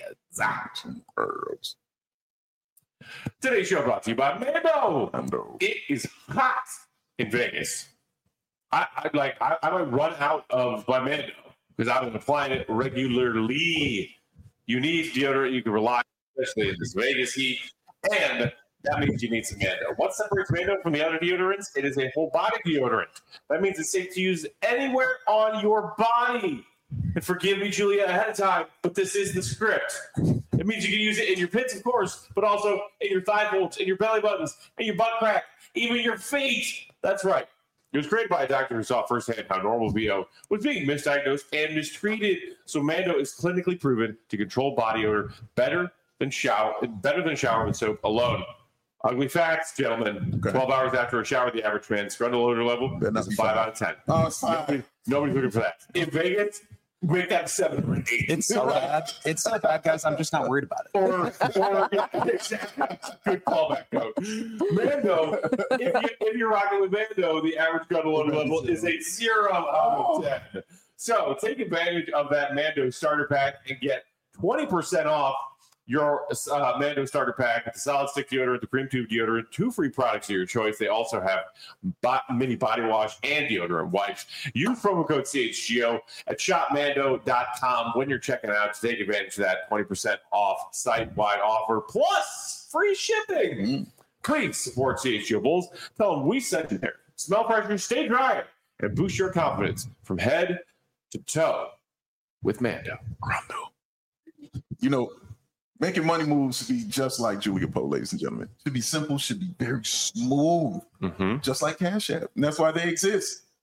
ads. Today's show brought to you by Mando. Mando. It is hot in Vegas. I, I like. I, I might run out of my Mando because I've been applying it regularly. You need deodorant you can rely on, especially in this Vegas heat, and that means you need some Mando. What separates Mando from the other deodorants? It is a whole body deodorant. That means it's safe to use anywhere on your body. And forgive me, Julia, ahead of time, but this is the script. It means you can use it in your pits, of course, but also in your thigh folds, in your belly buttons, in your butt crack, even your feet. That's right. It was created by a doctor who saw firsthand how normal V O was being misdiagnosed and mistreated. So Mando is clinically proven to control body odor better than shower, better than shower with soap alone. Ugly facts, gentlemen. Okay. twelve hours after a shower, the average man's grundle odor level is a five out of ten. Oh, it's five. Nobody, nobody's looking for that. In Vegas, make that seven or eight. It's so bad. It's so bad, guys. I'm just not worried about it. Or, or yeah, good callback, coach. Mando, if, you, if you're rocking with Mando, the average grundle odor level is a zero out of ten. So take advantage of that Mando starter pack and get twenty percent off your uh, Mando starter pack with the solid stick deodorant, the cream tube deodorant, two free products of your choice. They also have bo- mini body wash and deodorant wipes. Use promo code C H G O at shop mando dot com when you're checking out to take advantage of that twenty percent off site-wide offer plus free shipping. Mm-hmm. Please support C H G O Bulls. Tell them we sent you there. Smell fresher, stay dry, and boost your confidence from head to toe with Mando. Mando. You know, making money moves should be just like Julia Poe, ladies and gentlemen. Should be simple, should be very smooth, mm-hmm. just like Cash App. And that's why they exist.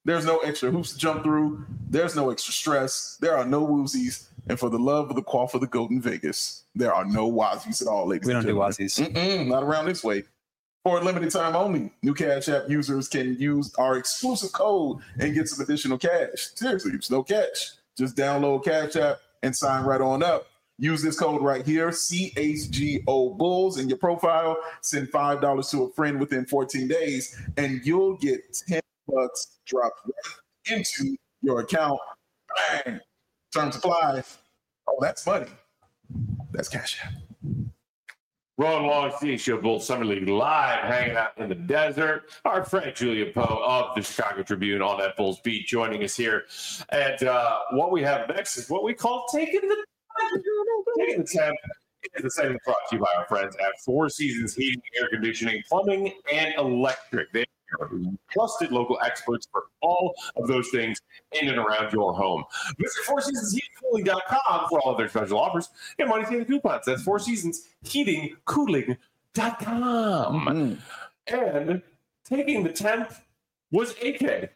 There's no extra hoops to jump through. There's no extra stress. There are no woozies. And for the love of the quaff of the goat in Vegas, there are no wazies at all, ladies We and don't do gentlemen. Wazies. Mm-mm, not around this way. For a limited time only, new Cash App users can use our exclusive code and get some additional cash. Seriously, it's no catch. Just download Cash App and sign right on up. Use this code right here, C H G O Bulls, in your profile. Send five dollars to a friend within fourteen days, and you'll get ten bucks dropped right into your account. Bang! Terms apply. Oh, that's money. That's Cash App. Rolling along, C H G O Bulls Summer League live, hanging out in the desert. Our friend Julia Poe of the Chicago Tribune on that Bulls beat joining us here. And uh, what we have next is what we call taking the taking the temp. Is the segment brought to you by our friends at Four Seasons Heating, Air Conditioning, Plumbing, and Electric. They are trusted local experts for all of those things in and around your home. Visit four seasons heating cooling dot com for all of their special offers and money saving coupons. That's four seasons heating cooling dot com. Mm-hmm. And taking the temp was A K.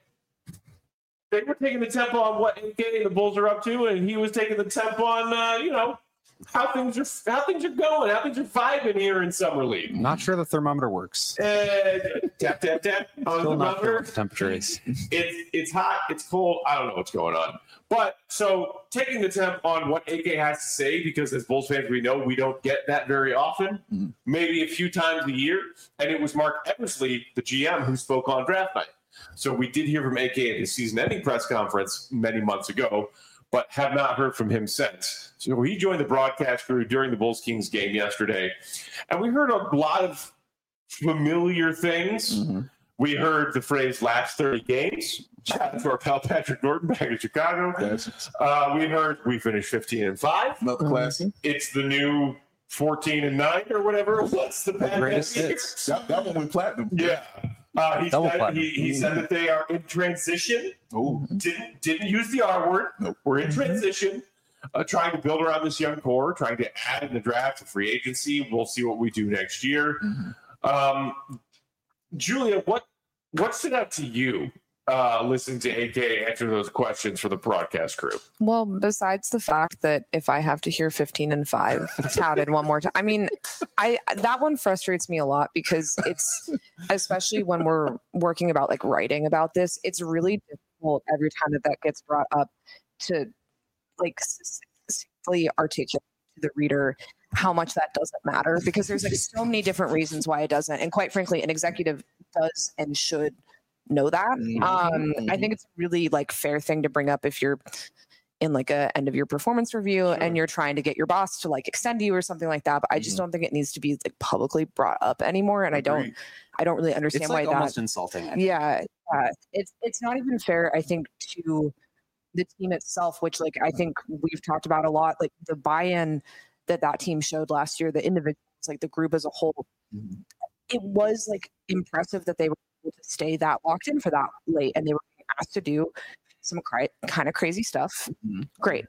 They were taking the temp on what A K and the Bulls are up to, and he was taking the temp on, uh, you know, how things are how things are going, how things are vibing here in Summer League. Not sure the thermometer works. Uh, tap, tap, tap on Still the not sure thermometer. what the temperature is. It's, it's hot, it's cold, I don't know what's going on. But, so, taking the temp on what A K has to say, because as Bulls fans, we know we don't get that very often, mm-hmm. maybe a few times a year, and it was Mark Eversley, the G M, who spoke on draft night. So we did hear from A K at his season-ending press conference many months ago, but have not heard from him since. So he joined the broadcast crew during the Bulls-Kings game yesterday, and we heard a lot of familiar things. Mm-hmm. We heard the phrase last thirty games. Shout out to our pal Patrick Norton back in Chicago. Yes. Uh, we heard we finished fifteen and five. Another classic. It's the new fourteen and nine or whatever. What's the bad greatest hits? That, that one went platinum. Yeah. Uh, he, Double said, platinum. he, he said that they are in transition. Ooh. Didn't didn't use the R word. Nope. We're in transition, uh, trying to build around this young core, trying to add in the draft to free agency. We'll see what we do next year. Mm-hmm. Um, Julia, what what stood out to you uh, listening to A K answer those questions for the broadcast crew? Well, besides the fact that if I have to hear fifteen and five touted one more time, I mean, I that one frustrates me a lot because it's, especially when we're working about like writing about this, it's really difficult every time that that gets brought up to like succinctly articulate to the reader how much that doesn't matter, because there's like so many different reasons why it doesn't. And quite frankly, an executive does and should know that. Mm-hmm. Um, I think it's a really like fair thing to bring up if you're in like a end of your performance review sure. and you're trying to get your boss to like extend you or something like that. But I just mm-hmm. don't think it needs to be like publicly brought up anymore. And Agreed. I don't, I don't really understand it's why like that. Almost insulting. Yeah, yeah, it's it's not even fair. I think to the team itself, which like I think we've talked about a lot, like the buy-in that that team showed last year, the individuals, like the group as a whole. Mm-hmm. It was like impressive that they were able to stay that locked in for that late, and they were asked to do some cri- kind of crazy stuff. Mm-hmm. Great.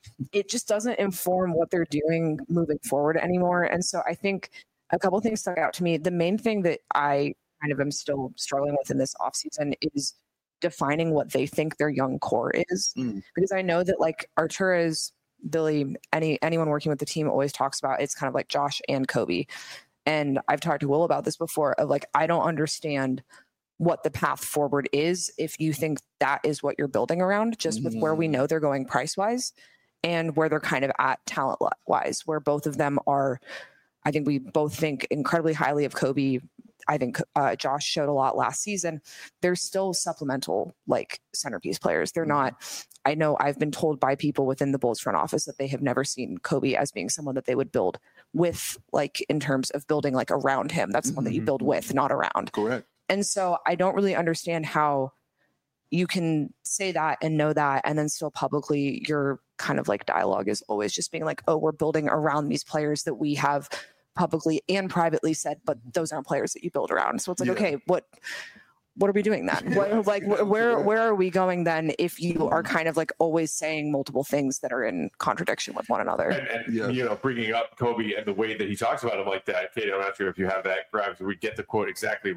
It just doesn't inform what they're doing moving forward anymore. And so I think a couple of things stuck out to me. The main thing that I kind of am still struggling with in this offseason is defining what they think their young core is. Mm. Because I know that like Arturas, Billy, any anyone working with the team always talks about it's kind of like Josh and Kobe. And I've talked to Will about this before of like, I don't understand what the path forward is if you think that is what you're building around, just with mm-hmm. where we know they're going price wise and where they're kind of at talent wise, where both of them are. I think we both think incredibly highly of Kobe. I think uh, Josh showed a lot last season. They're still supplemental like centerpiece players. They're not. I know I've been told by people within the Bulls front office that they have never seen Kobe as being someone that they would build with, like in terms of building like around him. That's mm-hmm. someone that you build with, not around. Correct. And so I don't really understand how you can say that and know that, and then still publicly your kind of like dialogue is always just being like, oh, we're building around these players that we have publicly and privately said, but those aren't players that you build around. So it's like, yeah. okay, what what are we doing then? What, like where where are we going then if you are kind of like always saying multiple things that are in contradiction with one another? And, and yeah. you know, bringing up Kobe and the way that he talks about him like that, Katie, I'm not sure if you have that graph, so we get the quote exactly right.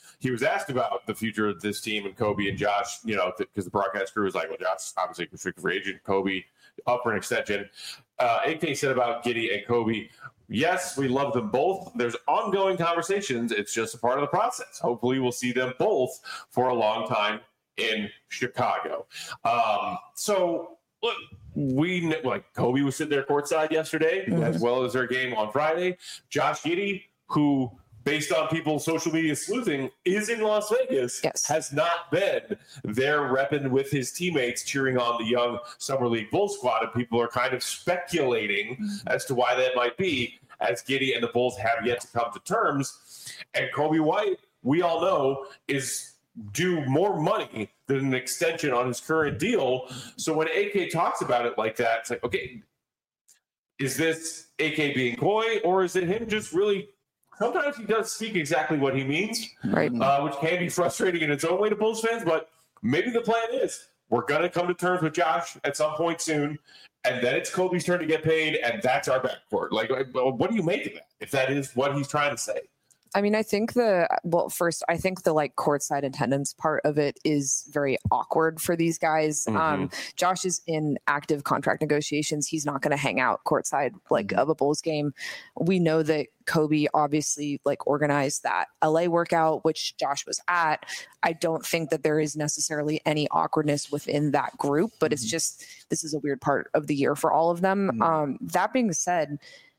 he was asked about the future of this team and Kobe and Josh, you know, because the broadcast crew was like, well, Josh obviously restricted free agent, Kobe up for an extension. Uh, A K said about Giddey and Kobe, yes, we love them both. There's ongoing conversations. It's just a part of the process. Hopefully we'll see them both for a long time in Chicago. Um, so, look, we like Kobe was sitting there courtside yesterday, mm-hmm. as well as their game on Friday. Josh Giddey, who, based on people's social media sleuthing, is in Las Vegas, yes. has not been there repping with his teammates, cheering on the young Summer League Bulls squad, and people are kind of speculating mm-hmm. as to why that might be, as Giddey and the Bulls have yet to come to terms. And Kobe White, we all know, is due more money than an extension on his current deal. So when A K talks about it like that, it's like, okay, is this A K being coy, or is it him just really – sometimes he does speak exactly what he means, right? Uh, which can be frustrating in its own way to Bulls fans, but maybe the plan is we're going to come to terms with Josh at some point soon, and then it's Kobe's turn to get paid, and that's our backcourt. Like, what do you make of that, if that is what he's trying to say? I mean, I think the, well, first, I think the like courtside attendance part of it is very awkward for these guys. Mm-hmm. Um, Josh is in active contract negotiations. He's not going to hang out courtside like mm-hmm. of a Bulls game. We know that Kobe obviously like organized that L A workout, which Josh was at. I don't think that there is necessarily any awkwardness within that group, but mm-hmm. it's just, this is a weird part of the year for all of them. Mm-hmm. Um, that being said,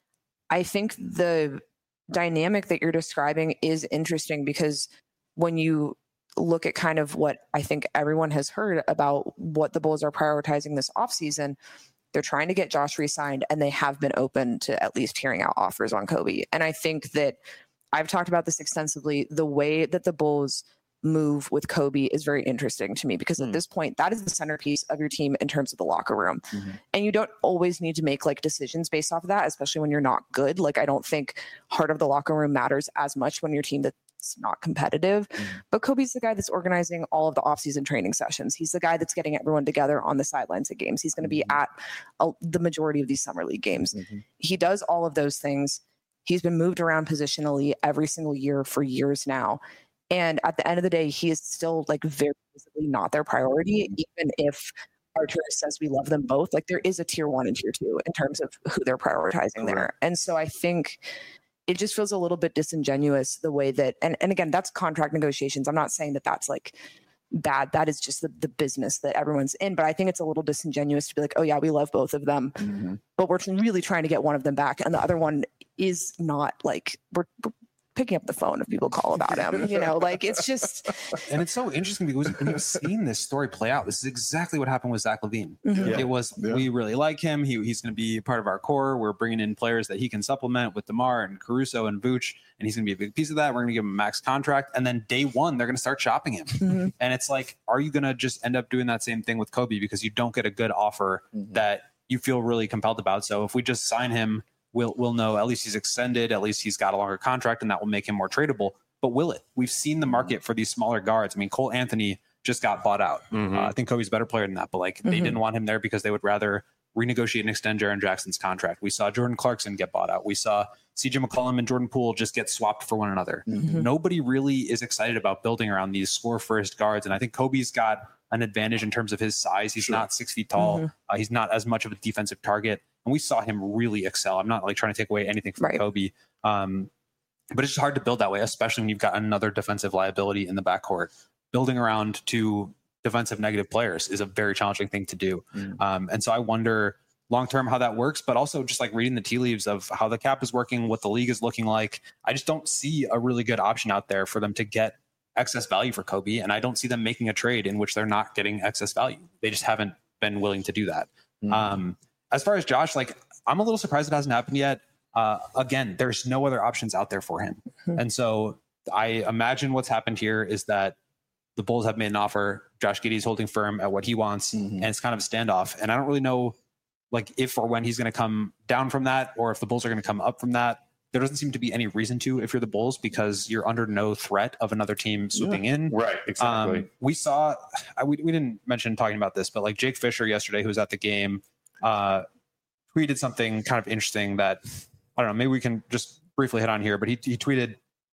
I think the dynamic that you're describing is interesting, because when you look at kind of what I think everyone has heard about what the Bulls are prioritizing this offseason, they're trying to get Josh re-signed, and they have been open to at least hearing out offers on Kobe. And I think that I've talked about this extensively. The way that the Bulls move with Kobe is very interesting to me, because mm. at this point, that is the centerpiece of your team in terms of the locker room. Mm-hmm. And you don't always need to make like decisions based off of that, especially when you're not good. Like, I don't think heart of the locker room matters as much when your team that's not competitive. Mm. But Kobe's the guy that's organizing all of the offseason training sessions. He's the guy that's getting everyone together on the sidelines of games. He's going to be mm-hmm. at a, the majority of these summer league games. Mm-hmm. He does all of those things. He's been moved around positionally every single year for years now. And at the end of the day, he is still like very visibly not their priority, even if Artur says we love them both. Like, there is a tier one and tier two in terms of who they're prioritizing there. And so I think it just feels a little bit disingenuous the way that, and, and again, that's contract negotiations. I'm not saying that that's like bad. That is just the, the business that everyone's in. But I think it's a little disingenuous to be like, oh yeah, we love both of them, mm-hmm. but we're really trying to get one of them back. And the other one is not like, we're, we're picking up the phone if people call about him, you know, like, it's just. And it's so interesting because when you've seen this story play out, this is exactly what happened with Zach LaVine. Mm-hmm. Yeah. It was, yeah. we really like him. He, he's going to be part of our core. We're bringing in players that he can supplement with DeMar and Caruso and Vooch, and he's going to be a big piece of that. We're going to give him a max contract. And then day one, they're going to start shopping him. Mm-hmm. And it's like, are you going to just end up doing that same thing with Kobe because you don't get a good offer mm-hmm. that you feel really compelled about? So if we just sign him, We'll, we'll know at least he's extended, at least he's got a longer contract, and that will make him more tradable. But will it? We've seen the market for these smaller guards. I mean, Cole Anthony just got bought out. Mm-hmm. Uh, I think Kobe's a better player than that, but like mm-hmm. they didn't want him there because they would rather renegotiate and extend Jaren Jackson's contract. We saw Jordan Clarkson get bought out. We saw C J McCollum and Jordan Poole just get swapped for one another. Mm-hmm. Nobody really is excited about building around these score first guards. And I think Kobe's got an advantage in terms of his size. He's sure. not six feet tall. Mm-hmm. Uh, he's not as much of a defensive target. And we saw him really excel. I'm not like trying to take away anything from right. Kobe. Um, but it's just hard to build that way, especially when you've got another defensive liability in the backcourt. Building around two defensive negative players is a very challenging thing to do. Mm. Um, and so I wonder long-term how that works, but also just like reading the tea leaves of how the cap is working, what the league is looking like. I just don't see a really good option out there for them to get excess value for Kobe. And I don't see them making a trade in which they're not getting excess value. They just haven't been willing to do that. Mm. Um, As far as Josh, like, I'm a little surprised it hasn't happened yet. Uh, again, there's no other options out there for him. Mm-hmm. And so I imagine what's happened here is that the Bulls have made an offer. Josh Giddey's holding firm at what he wants, mm-hmm. and it's kind of a standoff. And I don't really know, like, if or when he's going to come down from that, or if the Bulls are going to come up from that. There doesn't seem to be any reason to if you're the Bulls, because you're under no threat of another team swooping yeah. in. Right, exactly. Um, we saw, I, we, we didn't mention talking about this, but like Jake Fisher yesterday, who was at the game, uh, tweeted something kind of interesting that, I don't know, maybe we can just briefly hit on here, but he, he tweeted,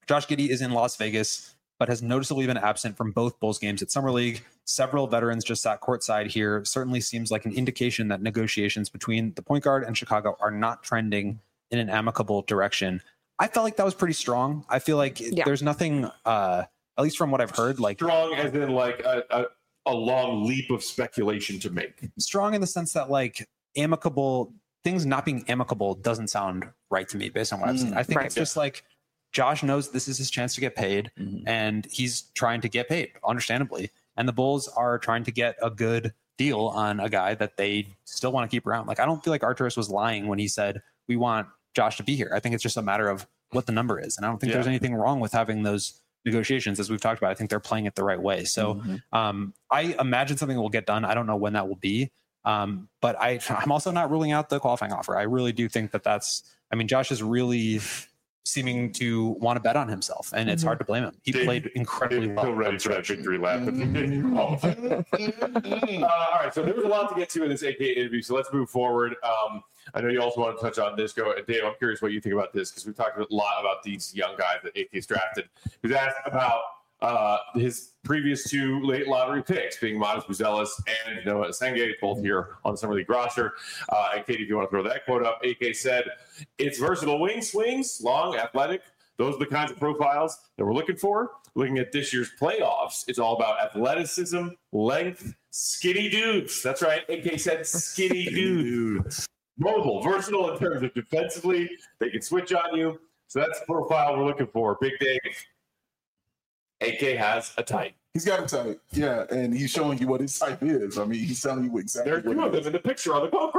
Josh Giddey is in Las Vegas, but has noticeably been absent from both Bulls games at Summer League. Several veterans just sat courtside here. Certainly seems like an indication that negotiations between the point guard and Chicago are not trending in an amicable direction. I felt like that was pretty strong. I feel like Yeah. there's nothing, uh, at least from what I've heard, like Strong as in like a, a, a long leap of speculation to make. strong in the sense that like amicable things not being amicable doesn't sound right to me based on what I've seen. I think Right. it's just like Josh knows this is his chance to get paid, Mhm. and he's trying to get paid, understandably. And the Bulls are trying to get a good deal on a guy that they still want to keep around. Like, I don't feel like Arturis was lying when he said, we want Josh to be here. I think it's just a matter of what the number is. And I don't think Yeah. there's anything wrong with having those negotiations, as we've talked about. I think they're playing it the right way. So Mhm. um, I imagine something will get done. I don't know when that will be. Um, but I, I'm also not ruling out the qualifying offer. I really do think that that's, I mean, Josh is really seeming to want to bet on himself, and it's Mhm. hard to blame him. He Dave- played incredibly Dave, well. Still ready for that victory lap. uh, all right, so there was a lot to get to in this A K interview, so let's move forward. Um, I know you also want to touch on this. Go, Dave, I'm curious what you think about this, because we've talked a lot about these young guys that A K's drafted. He was asked about uh, his previous two late lottery picks, being Modest Buzelis and Noah Senge, both here on the Summer League roster. Uh, and Katie, if you want to throw that quote up, A K said, "It's versatile wing swings, long, athletic. Those are the kinds of profiles that we're looking for. Looking at this year's playoffs, it's all about athleticism, length, skinny dudes." That's right. A K said skinny dudes. Mobile, versatile in terms of defensively. They can switch on you. So that's the profile we're looking for. Big Dave. A K has a type. He's got a type, yeah, and he's showing you what his type is. I mean, he's telling you exactly. There's two what of it them in the picture on the poker.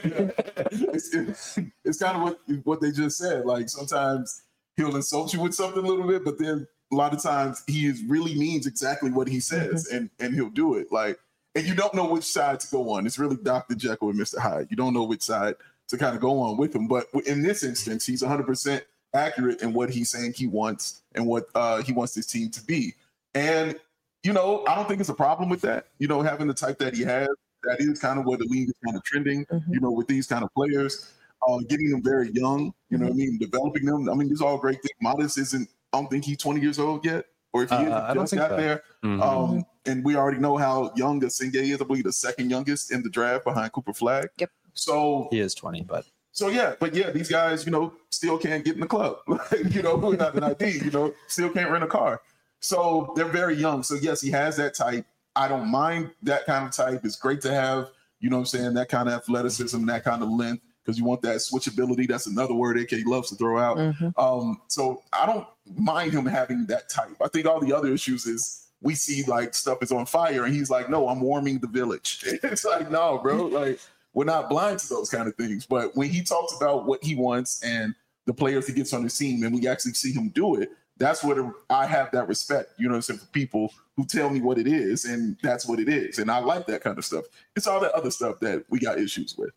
it's, it's, it's kind of what what they just said. Like, sometimes he'll insult you with something a little bit, but then a lot of times he is really means exactly what he says, and and he'll do it. Like, and you don't know which side to go on. It's really Doctor Jekyll and Mister Hyde. You don't know which side to kind of go on with him. But in this instance, he's one hundred percent accurate in what he's saying he wants and what uh, he wants this team to be. And you know, I don't think it's a problem with that. You know, having the type that he has, that is kind of where the league is kind of trending. Mhm. You know, with these kind of players, uh, getting them very young. You know what I mean? Developing them. I mean, these are all great things. Modest isn't. I don't think he's twenty years old yet, or if he Uh, is, I he don't just think got so. there. Mhm. Um, and we already know how young Senge is. I believe the second youngest in the draft behind Cooper Flag. Yep. So, He is twenty, but so yeah, but yeah, these guys, you know, still can't get in the club. Like, you know, without an I D, you know, still can't rent a car. So they're very young. So yes, he has that type. I don't mind that kind of type. It's great to have, you know what I'm saying, that kind of athleticism, that kind of length, because you want that switchability. That's another word A K loves to throw out. Mhm. Um, so I don't mind him having that type. I think all the other issues is we see like stuff is on fire and he's like, no, I'm warming the village. It's like, no, bro, like we're not blind to those kind of things. But when he talks about what he wants and the players he gets on his team and we actually see him do it, that's what I have that respect, you know what I'm saying, for people who tell me what it is, and that's what it is. And I like that kind of stuff. It's all that other stuff that we got issues with.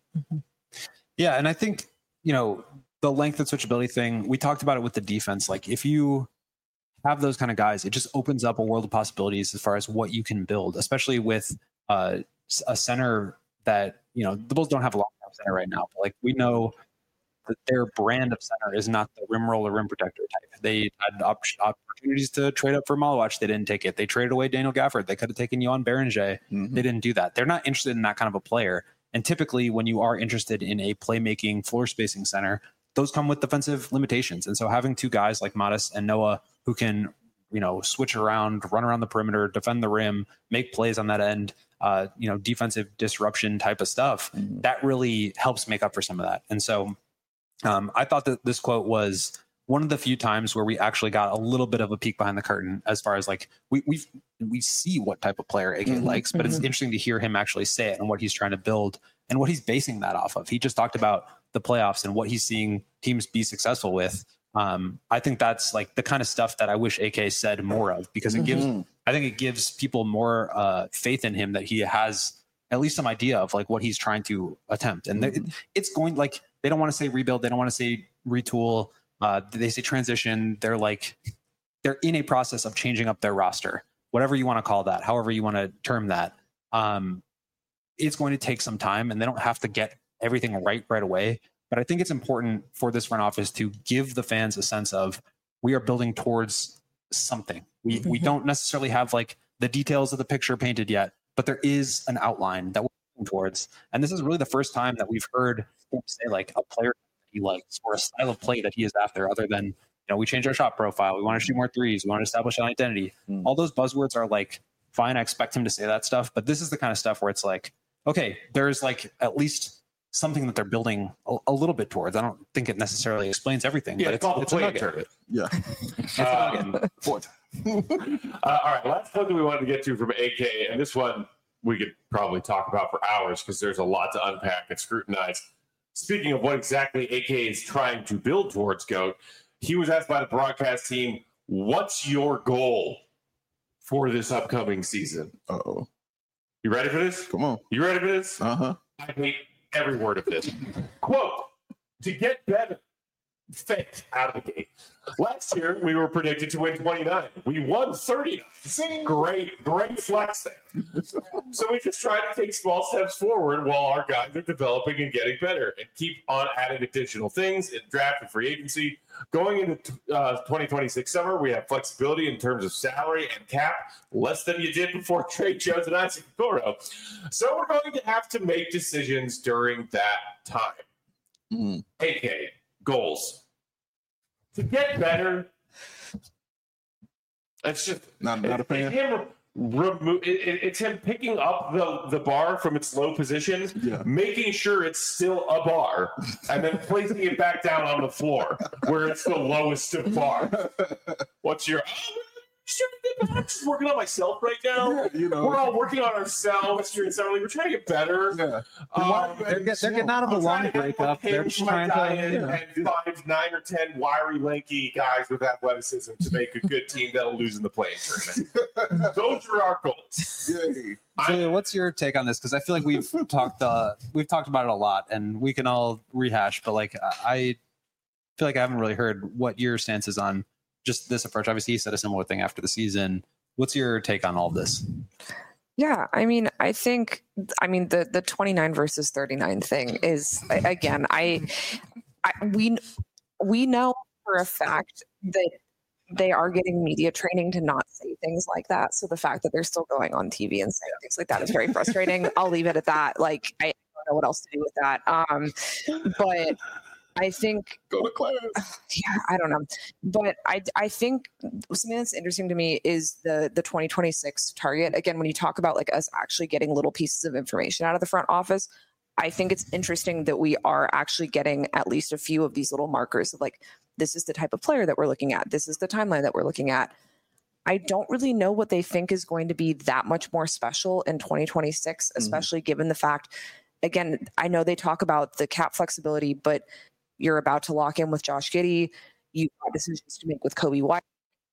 yeah, and I think, you know, the length and switchability thing, we talked about it with the defense. Like, if you have those kind of guys, it just opens up a world of possibilities as far as what you can build, especially with uh, a center that, you know, the Bulls don't have a long-term center right now. But like, we know that their brand of center is not the rim roller, rim protector type. They had op- opportunities to trade up for Malawach. They didn't take it. They traded away Daniel Gafford. They could have taken Johan Berenger. Mhm. They didn't do that. They're not interested in that kind of a player. And typically when you are interested in a playmaking floor spacing center, those come with defensive limitations. And so having two guys like Modest and Noah who can, you know, switch around, run around the perimeter, defend the rim, make plays on that end, uh, you know, defensive disruption type of stuff, Mhm. that really helps make up for some of that. And so um, I thought that this quote was one of the few times where we actually got a little bit of a peek behind the curtain as far as like we we we see what type of player A K Mhm, likes, but it's mhm. interesting to hear him actually say it and what he's trying to build and what he's basing that off of. He just talked about the playoffs and what he's seeing teams be successful with. Um, I think that's like the kind of stuff that I wish A K said more of, because it gives Mhm. I think it gives people more uh, faith in him that he has at least some idea of like what he's trying to attempt. And it, it's going like, they don't want to say rebuild. They don't want to say retool. Uh, they say transition. They're like, they're in a process of changing up their roster, whatever you want to call that, however you want to term that. Um, it's going to take some time and they don't have to get everything right right away. But I think it's important for this front office to give the fans a sense of we are building towards something. We we don't necessarily have like the details of the picture painted yet, but there is an outline that we're working towards. And this is really the first time that we've heard him say like a player that he likes or a style of play that he is after, other than, you know, we changed our shot profile. We want to shoot more threes. We want to establish an identity. Mm. All those buzzwords are like, fine, I expect him to say that stuff. But this is the kind of stuff where it's like, okay, there's like at least something that they're building a, a little bit towards. I don't think it necessarily explains everything. Yeah, but it's, it's, called it's the a play nugget. tournament. Yeah. Um, Fourth. uh, all right, last one that we wanted to get to from A K, and this one we could probably talk about for hours because there's a lot to unpack and scrutinize. Speaking of what exactly A K is trying to build towards, GOAT, he was asked by the broadcast team, what's your goal for this upcoming season? Uh-oh. You ready for this? Come on. You ready for this? Uh-huh. I hate every word of this. Quote, to get better. Faked out of the gate. Last year, we were predicted to win twenty-nine. We won thirty-nine. Great, great flex there. So we just try to take small steps forward while our guys are developing and getting better and keep on adding additional things in draft and free agency. Going into uh, twenty twenty-six summer, we have flexibility in terms of salary and cap, less than you did before Trey Jones and Isaac Okoro. So we're going to have to make decisions during that time. Mm. A K, goals. To get better, it's just Not, not a it's fan. him remove. It, it, it's him picking up the, the bar from its low position, Yeah. making sure it's still a bar, and then placing it back down on the floor where it's the lowest of bar. What's your? Oh, I'm just working on myself right now. Yeah, you know. We're all working on ourselves during summer league. We're trying to get better. Yeah. Um, They're, get, they're getting out of a I'm long trying to breakup. They're change just my trying to. diet Yeah. and find nine or ten wiry, lanky guys with athleticism to make a good team that'll lose in the playing tournament. Those are our goals. Yay. Julia, what's your take on this? Because I feel like we've talked uh, we've talked about it a lot, and we can all rehash. But like, I feel like I haven't really heard what your stance is on just this approach. Obviously, he said a similar thing after the season. What's your take on all of this? Yeah, I mean, I think, I mean, the the twenty-nine versus thirty-nine thing is, again, I, I we we know for a fact that they are getting media training to not say things like that. So the fact that they're still going on T V and saying things like that is very frustrating. I'll leave it at that. Like, I don't know what else to do with that. Um, but I think Go to class. yeah, I don't know. But I I think something that's interesting to me is the the twenty twenty-six target. Again, when you talk about like us actually getting little pieces of information out of the front office, I think it's interesting that we are actually getting at least a few of these little markers of like, this is the type of player that we're looking at. This is the timeline that we're looking at. I don't really know what they think is going to be that much more special in twenty twenty-six, especially mm-hmm. given the fact, again, I know they talk about the cap flexibility, but you're about to lock in with Josh Giddey. You've got decisions to make with Kobe White.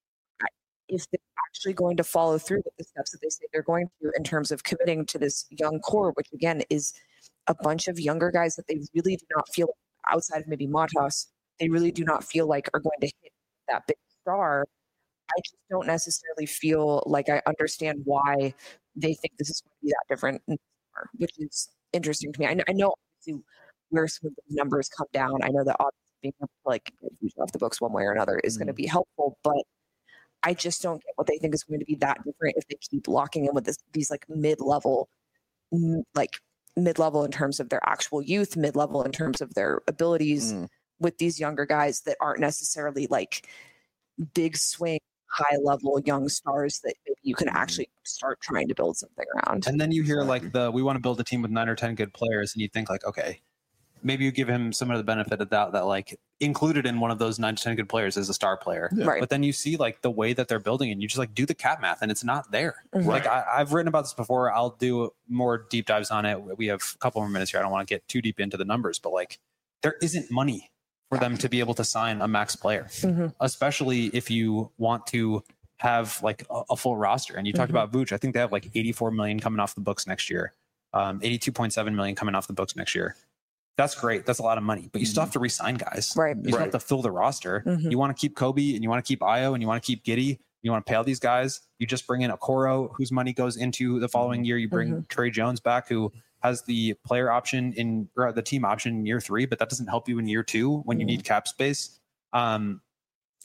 If they're actually going to follow through with the steps that they say they're going to in terms of committing to this young core, which again is a bunch of younger guys that they really do not feel, outside of maybe Matas, they really do not feel like are going to hit that big star. I just don't necessarily feel like I understand why they think this is going to be that different, which is interesting to me. I know, I know obviously where some of the numbers come down. I know that obviously being able to like get off the books one way or another is mm-hmm. going to be helpful, but I just don't get what they think is going to be that different if they keep locking in with this, these like mid-level, like mid-level in terms of their actual youth, mid-level in terms of their abilities mm. with these younger guys that aren't necessarily like big swing, high-level young stars that maybe you can actually start trying to build something around. And then you hear like the, we want to build a team with nine or ten good players, and you think like, okay, maybe you give him some of the benefit of doubt that like included in one of those nine to ten good players is a star player. Yeah. Right. But then you see like the way that they're building and you just like do the cap math and it's not there. Mm-hmm. Like I, I've written about this before. I'll do more deep dives on it. We have a couple more minutes here. I don't want to get too deep into the numbers, but like there isn't money for them to be able to sign a max player, mm-hmm. especially if you want to have like a, a full roster. And you talked mm-hmm. about Vooch. I think they have like eighty-four million coming off the books next year. Um, eighty-two point seven million coming off the books next year. That's great. That's a lot of money, but you still have to re-sign guys. Right. You still right. have to fill the roster. Mm-hmm. You want to keep Kobe and you want to keep Ayo and you want to keep Giddey. You want to pay all these guys. You just bring in Okoro, whose money goes into the following year. You bring mm-hmm. Trey Jones back, who has the player option in or the team option in year three, but that doesn't help you in year two when mm-hmm. you need cap space. Um,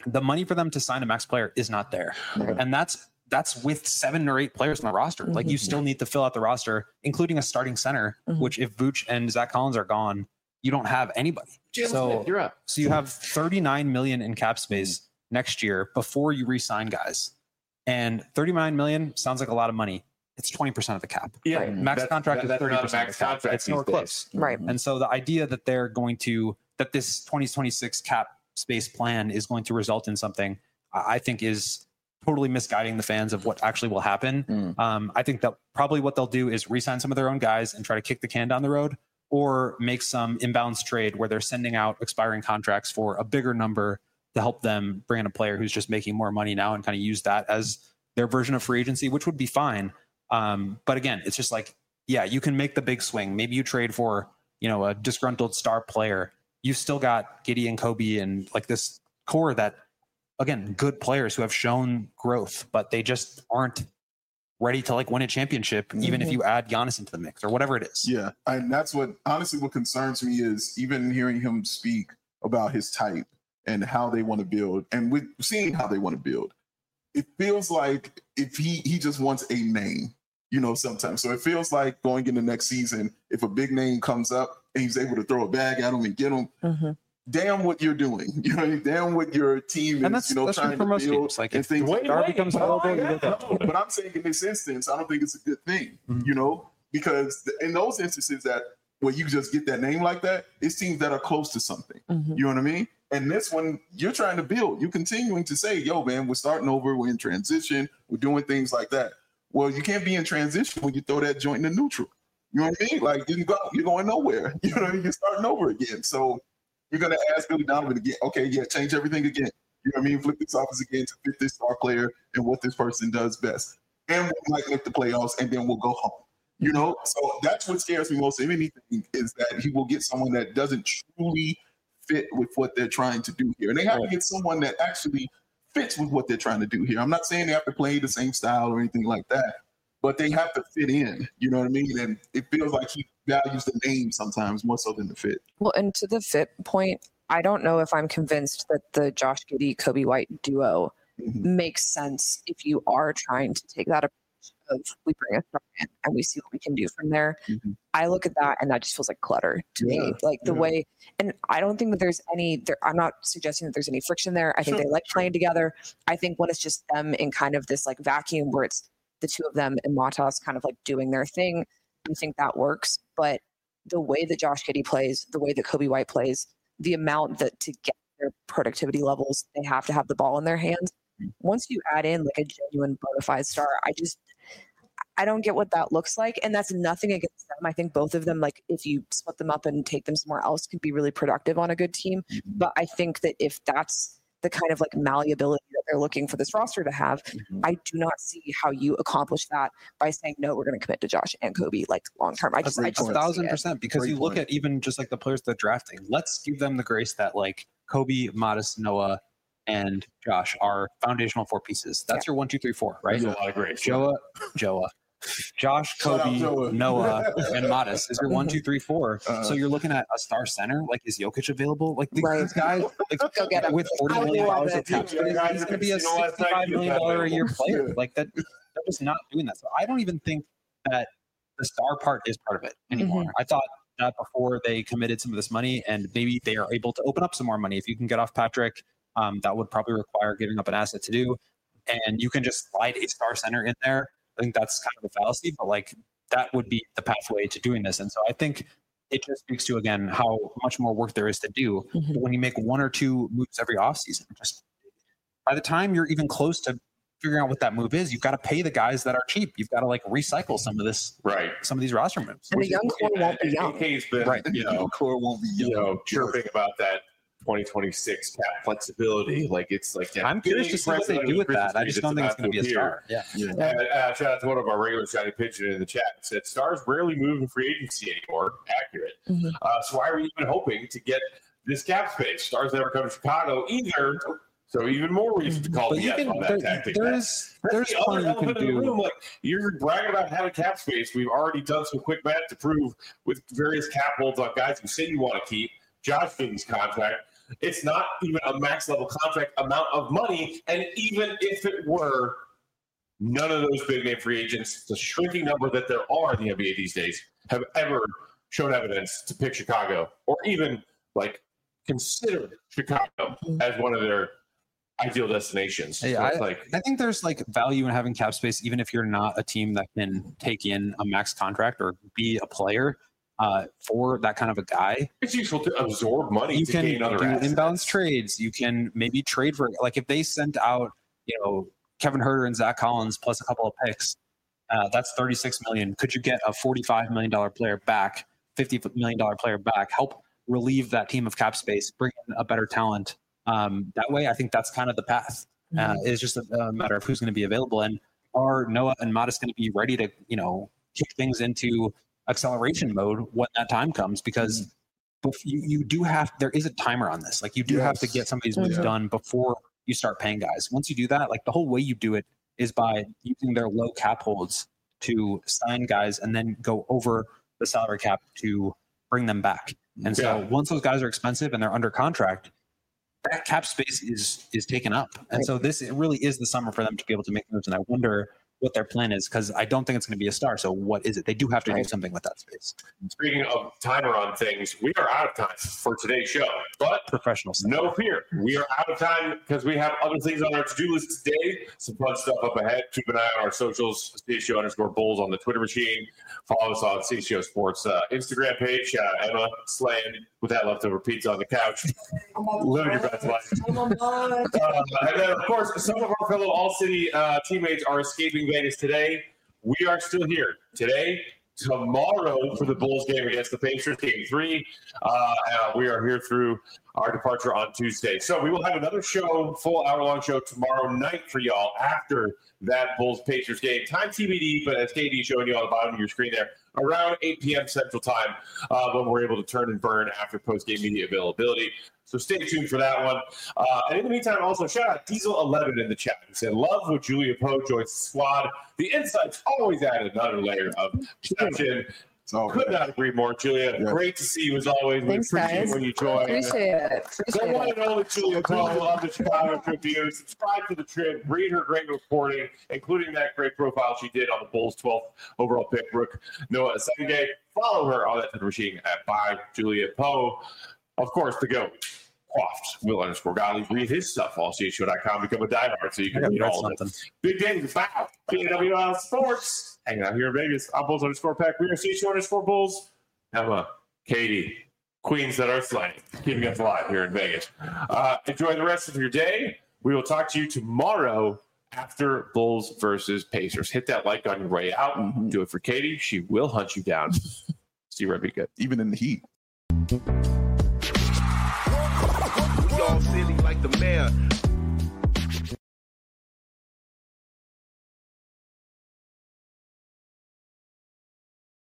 the money for them to sign a max player is not there. Right. And that's that's with seven or eight players on the roster. Mm-hmm. Like you still need to fill out the roster, including a starting center, Mm-hmm. which if Vooch and Zach Collins are gone, you don't have anybody. Jalen so, Smith, you're up. so you have thirty-nine million in cap space next year before you re-sign guys. And thirty-nine million sounds like a lot of money. It's twenty percent of the cap. Yeah, Right. Max that's, contract that, is thirty that's percent not a max of the cap. contract. It's nowhere these days. close. Right. And so the idea that they're going to that this twenty twenty-six cap space plan is going to result in something, I think is totally misguiding the fans of what actually will happen. Mm. Um, I think that probably what they'll do is re-sign some of their own guys and try to kick the can down the road, or make some inbounds trade where they're sending out expiring contracts for a bigger number to help them bring in a player who's just making more money now and kind of use that as their version of free agency, which would be fine. Um, but again, it's just like, yeah, you can make the big swing. Maybe you trade for, you know, a disgruntled star player. You've still got Giddey and Kobe and like this core that, again, good players who have shown growth, but they just aren't ready to like win a championship, mm-hmm. even if you add Giannis into the mix or whatever it is. Yeah. And that's what, honestly, what concerns me is even hearing him speak about his type and how they want to build, and with seeing how they want to build, it feels like if he, he just wants a name, you know, sometimes. So it feels like going into next season, if a big name comes up and he's able to throw a bag at him and get him, Mm-hmm. damn what you're doing. You know, damn what your team is, And that's, you know, that's trying for to most build teams. Like and if things. Wait, Star wait, becomes oh, available, yeah, you get that. no. But I'm saying in this instance, I don't think it's a good thing, Mhm. you know, because in those instances that where you just get that name like that, it's teams that are close to something. Mm-hmm. You know what I mean? And this one, you're trying to build. You're continuing to say, yo, man, we're starting over. We're in transition. We're doing things like that. Well, you can't be in transition when you throw that joint in the neutral. You know what I mean? Like, you go, you're going nowhere. You know, you're starting over again. So you're going to ask Billy Donovan again, okay, yeah, change everything again. You know what I mean? Flip this office again to fit this star player and what this person does best. And we might make the playoffs, and then we'll go home. You know, so that's what scares me most of anything is that he will get someone that doesn't truly fit with what they're trying to do here. And they have to get someone that actually fits with what they're trying to do here. I'm not saying they have to play the same style or anything like that, but they have to fit in. You know what I mean? And it feels like he values the name sometimes more so than the fit. Well, and to the fit point, I don't know if I'm convinced that the Josh Giddey, Kobe White duo Mm-hmm. makes sense if you are trying to take that approach of we bring a star in and we see what we can do from there. Mm-hmm. I look at that and that just feels like clutter to Yeah, me. Like the yeah. way, and I don't think that there's any, there, I'm not suggesting that there's any friction there. I think Sure, they like playing together. I think when it's just them in kind of this like vacuum where it's the two of them and Matas kind of like doing their thing, I think that works. But the way that Josh Giddey plays, the way that Kobe White plays, the amount that to get their productivity levels, they have to have the ball in their hands. Once you add in like a genuine bona fide star, I just, I don't get what that looks like. And that's nothing against them. I think both of them, like if you split them up and take them somewhere else, could be really productive on a good team. Mm-hmm. But I think that if that's the kind of like malleability that they're looking for this roster to have, Mm-hmm. I do not see how you accomplish that by saying, no, we're going to commit to Josh and Kobe like long term. I just, I great just A point. don't see thousand it. percent, because Great you look point. at even just like the players they're drafting. Let's give them the grace that like Kobe, Modest, Noah, and Josh are foundational four pieces. That's your one, two, three, four, right? There's a lot of great. Joa, Joa, Josh, Shout out Kobe, Joa. Noah, and Modest is your one, two, three, four. Uh, So you're looking at a star center. Like, is Jokic available? Like these Right. guys, like, Go get him. with forty I would million love dollars of it. cap space, Yeah, he's going to be a you know what, sixty-five million dollar a year player. Yeah. Like that, they're just not doing that. So I don't even think that the star part is part of it anymore. I thought that before they committed some of this money, and maybe they are able to open up some more money. If you can get off Patrick, um, that would probably require giving up an asset to do, and you can just slide a star center in there. I think that's kind of a fallacy, but like that would be the pathway to doing this. And so I think it just speaks to, again, how much more work there is to do. Mhm. But when you make one or two moves every offseason, just by the time you're even close to figuring out what that move is, you've got to pay the guys that are cheap. You've got to like recycle some of this, Right. some of these roster moves. And the young core won't be young. K's been, Right. you know, core won't be you young. know, chirping about that twenty twenty-six cap flexibility. Like it's like that I'm curious to see what they do with that. I just don't think it's going to be a star. Yeah. Yeah. And, uh, shout out to one of our regular shiny pigeon in the chat. It said stars rarely move in free agency anymore. Accurate. Mhm. Uh, so why are we even hoping to get this cap space? Stars never come to Chicago either. So even more reason to call But the you yes can, on that there, tactic. there's, That's there's the other plenty you elephant can in the do. room. Like you're bragging about having cap space. We've already done some quick math to prove with various cap holds on guys who say you want to keep. Josh Giddey's contract. It's not even a max level contract amount of money. And even if it were, none of those big name free agents, the shrinking number that there are in the N B A these days, have ever shown evidence to pick Chicago or even like consider Chicago as one of their ideal destinations. Hey, so I, it's like, I think there's like value in having cap space, even if you're not a team that can take in a max contract or be a player uh, for that kind of a guy. it's useful to absorb money You to can gain other do assets. inbounds trades. You can maybe trade for, like if they sent out, you know, Kevin Huerter and Zach Collins plus a couple of picks, uh, that's thirty-six million dollars. Could you get a forty-five million dollars player back, fifty million dollars player back, help relieve that team of cap space, bring in a better talent? Um, that way, I think that's kind of the path. Uh, it's just a, a matter of who's going to be available, and are Noah and Modest going to be ready to, you know, kick things into acceleration mode when that time comes? Because bef- you you do have there is a timer on this. Like you do have to Yes. get some of these moves Yeah. done before you start paying guys. Once you do that, like the whole way you do it is by using their low cap holds to sign guys and then go over the salary cap to bring them back. And so Yeah. once those guys are expensive and they're under contract, that cap space is is taken up. And Right. so this it really is the summer for them to be able to make moves. And I wonder what their plan is, because I don't think it's going to be a star. So what is it? They do have to do Right. something with that space. Speaking of timer on things, we are out of time for today's show, but Professional stuff. no fear. We are out of time because we have other things on our to-do list today. Some fun stuff up ahead. Keep an eye on our socials, C H O underscore Bulls on the Twitter machine. Follow us on C H O Sports uh, Instagram page. Shout out Emma slaying with that leftover pizza on the couch. Living your best life. Uh, and then, of course, some of our fellow All-City uh, teammates are escaping Vegas today. We are still here today. Tomorrow for the Bulls game against the Pacers, game three. Uh, uh, we are here through our departure on Tuesday. So we will have another show, full hour-long show tomorrow night for y'all after that Bulls-Pacers game. Time T B D, but as K D is showing you on the bottom of your screen there, around eight p.m. Central Time uh, when we're able to turn and burn after post-game media availability. So stay tuned for that one. Uh, and in the meantime, also shout out Diesel eleven in the chat. He said, love when Julia Poe joins the squad. The insights always add another layer of perception. So Could not agree more, Julia. Yeah. Great to see you as always. We Thanks, appreciate guys. when you join. Appreciate it. The Appreciate one it. and only Julia Poe of the Chicago Tribune. Subscribe to the Trib. Read her great reporting, including that great profile she did on the Bulls' twelfth overall pick, Rook Noah Asenge. Follow her on that Twitter machine at by Julia Poe. Of course, the GOAT. Quaffed, Will underscore Gottlieb. Read his stuff, all C H O dot com. Become a diehard so you I can gotta read read all of it. something. Big Danny, bow. B W L Sports. Hanging out here in Vegas. I'm Bulls underscore Pack. We are C H O underscore Bulls. Emma, Katie, queens that are slaying, keeping us alive here in Vegas. Uh, enjoy the rest of your day. We will talk to you tomorrow after Bulls versus Pacers. Hit that like on your way out. Mhm. Do it for Katie. She will hunt you down. See you right, be good. even in the heat. We all silly like the mayor.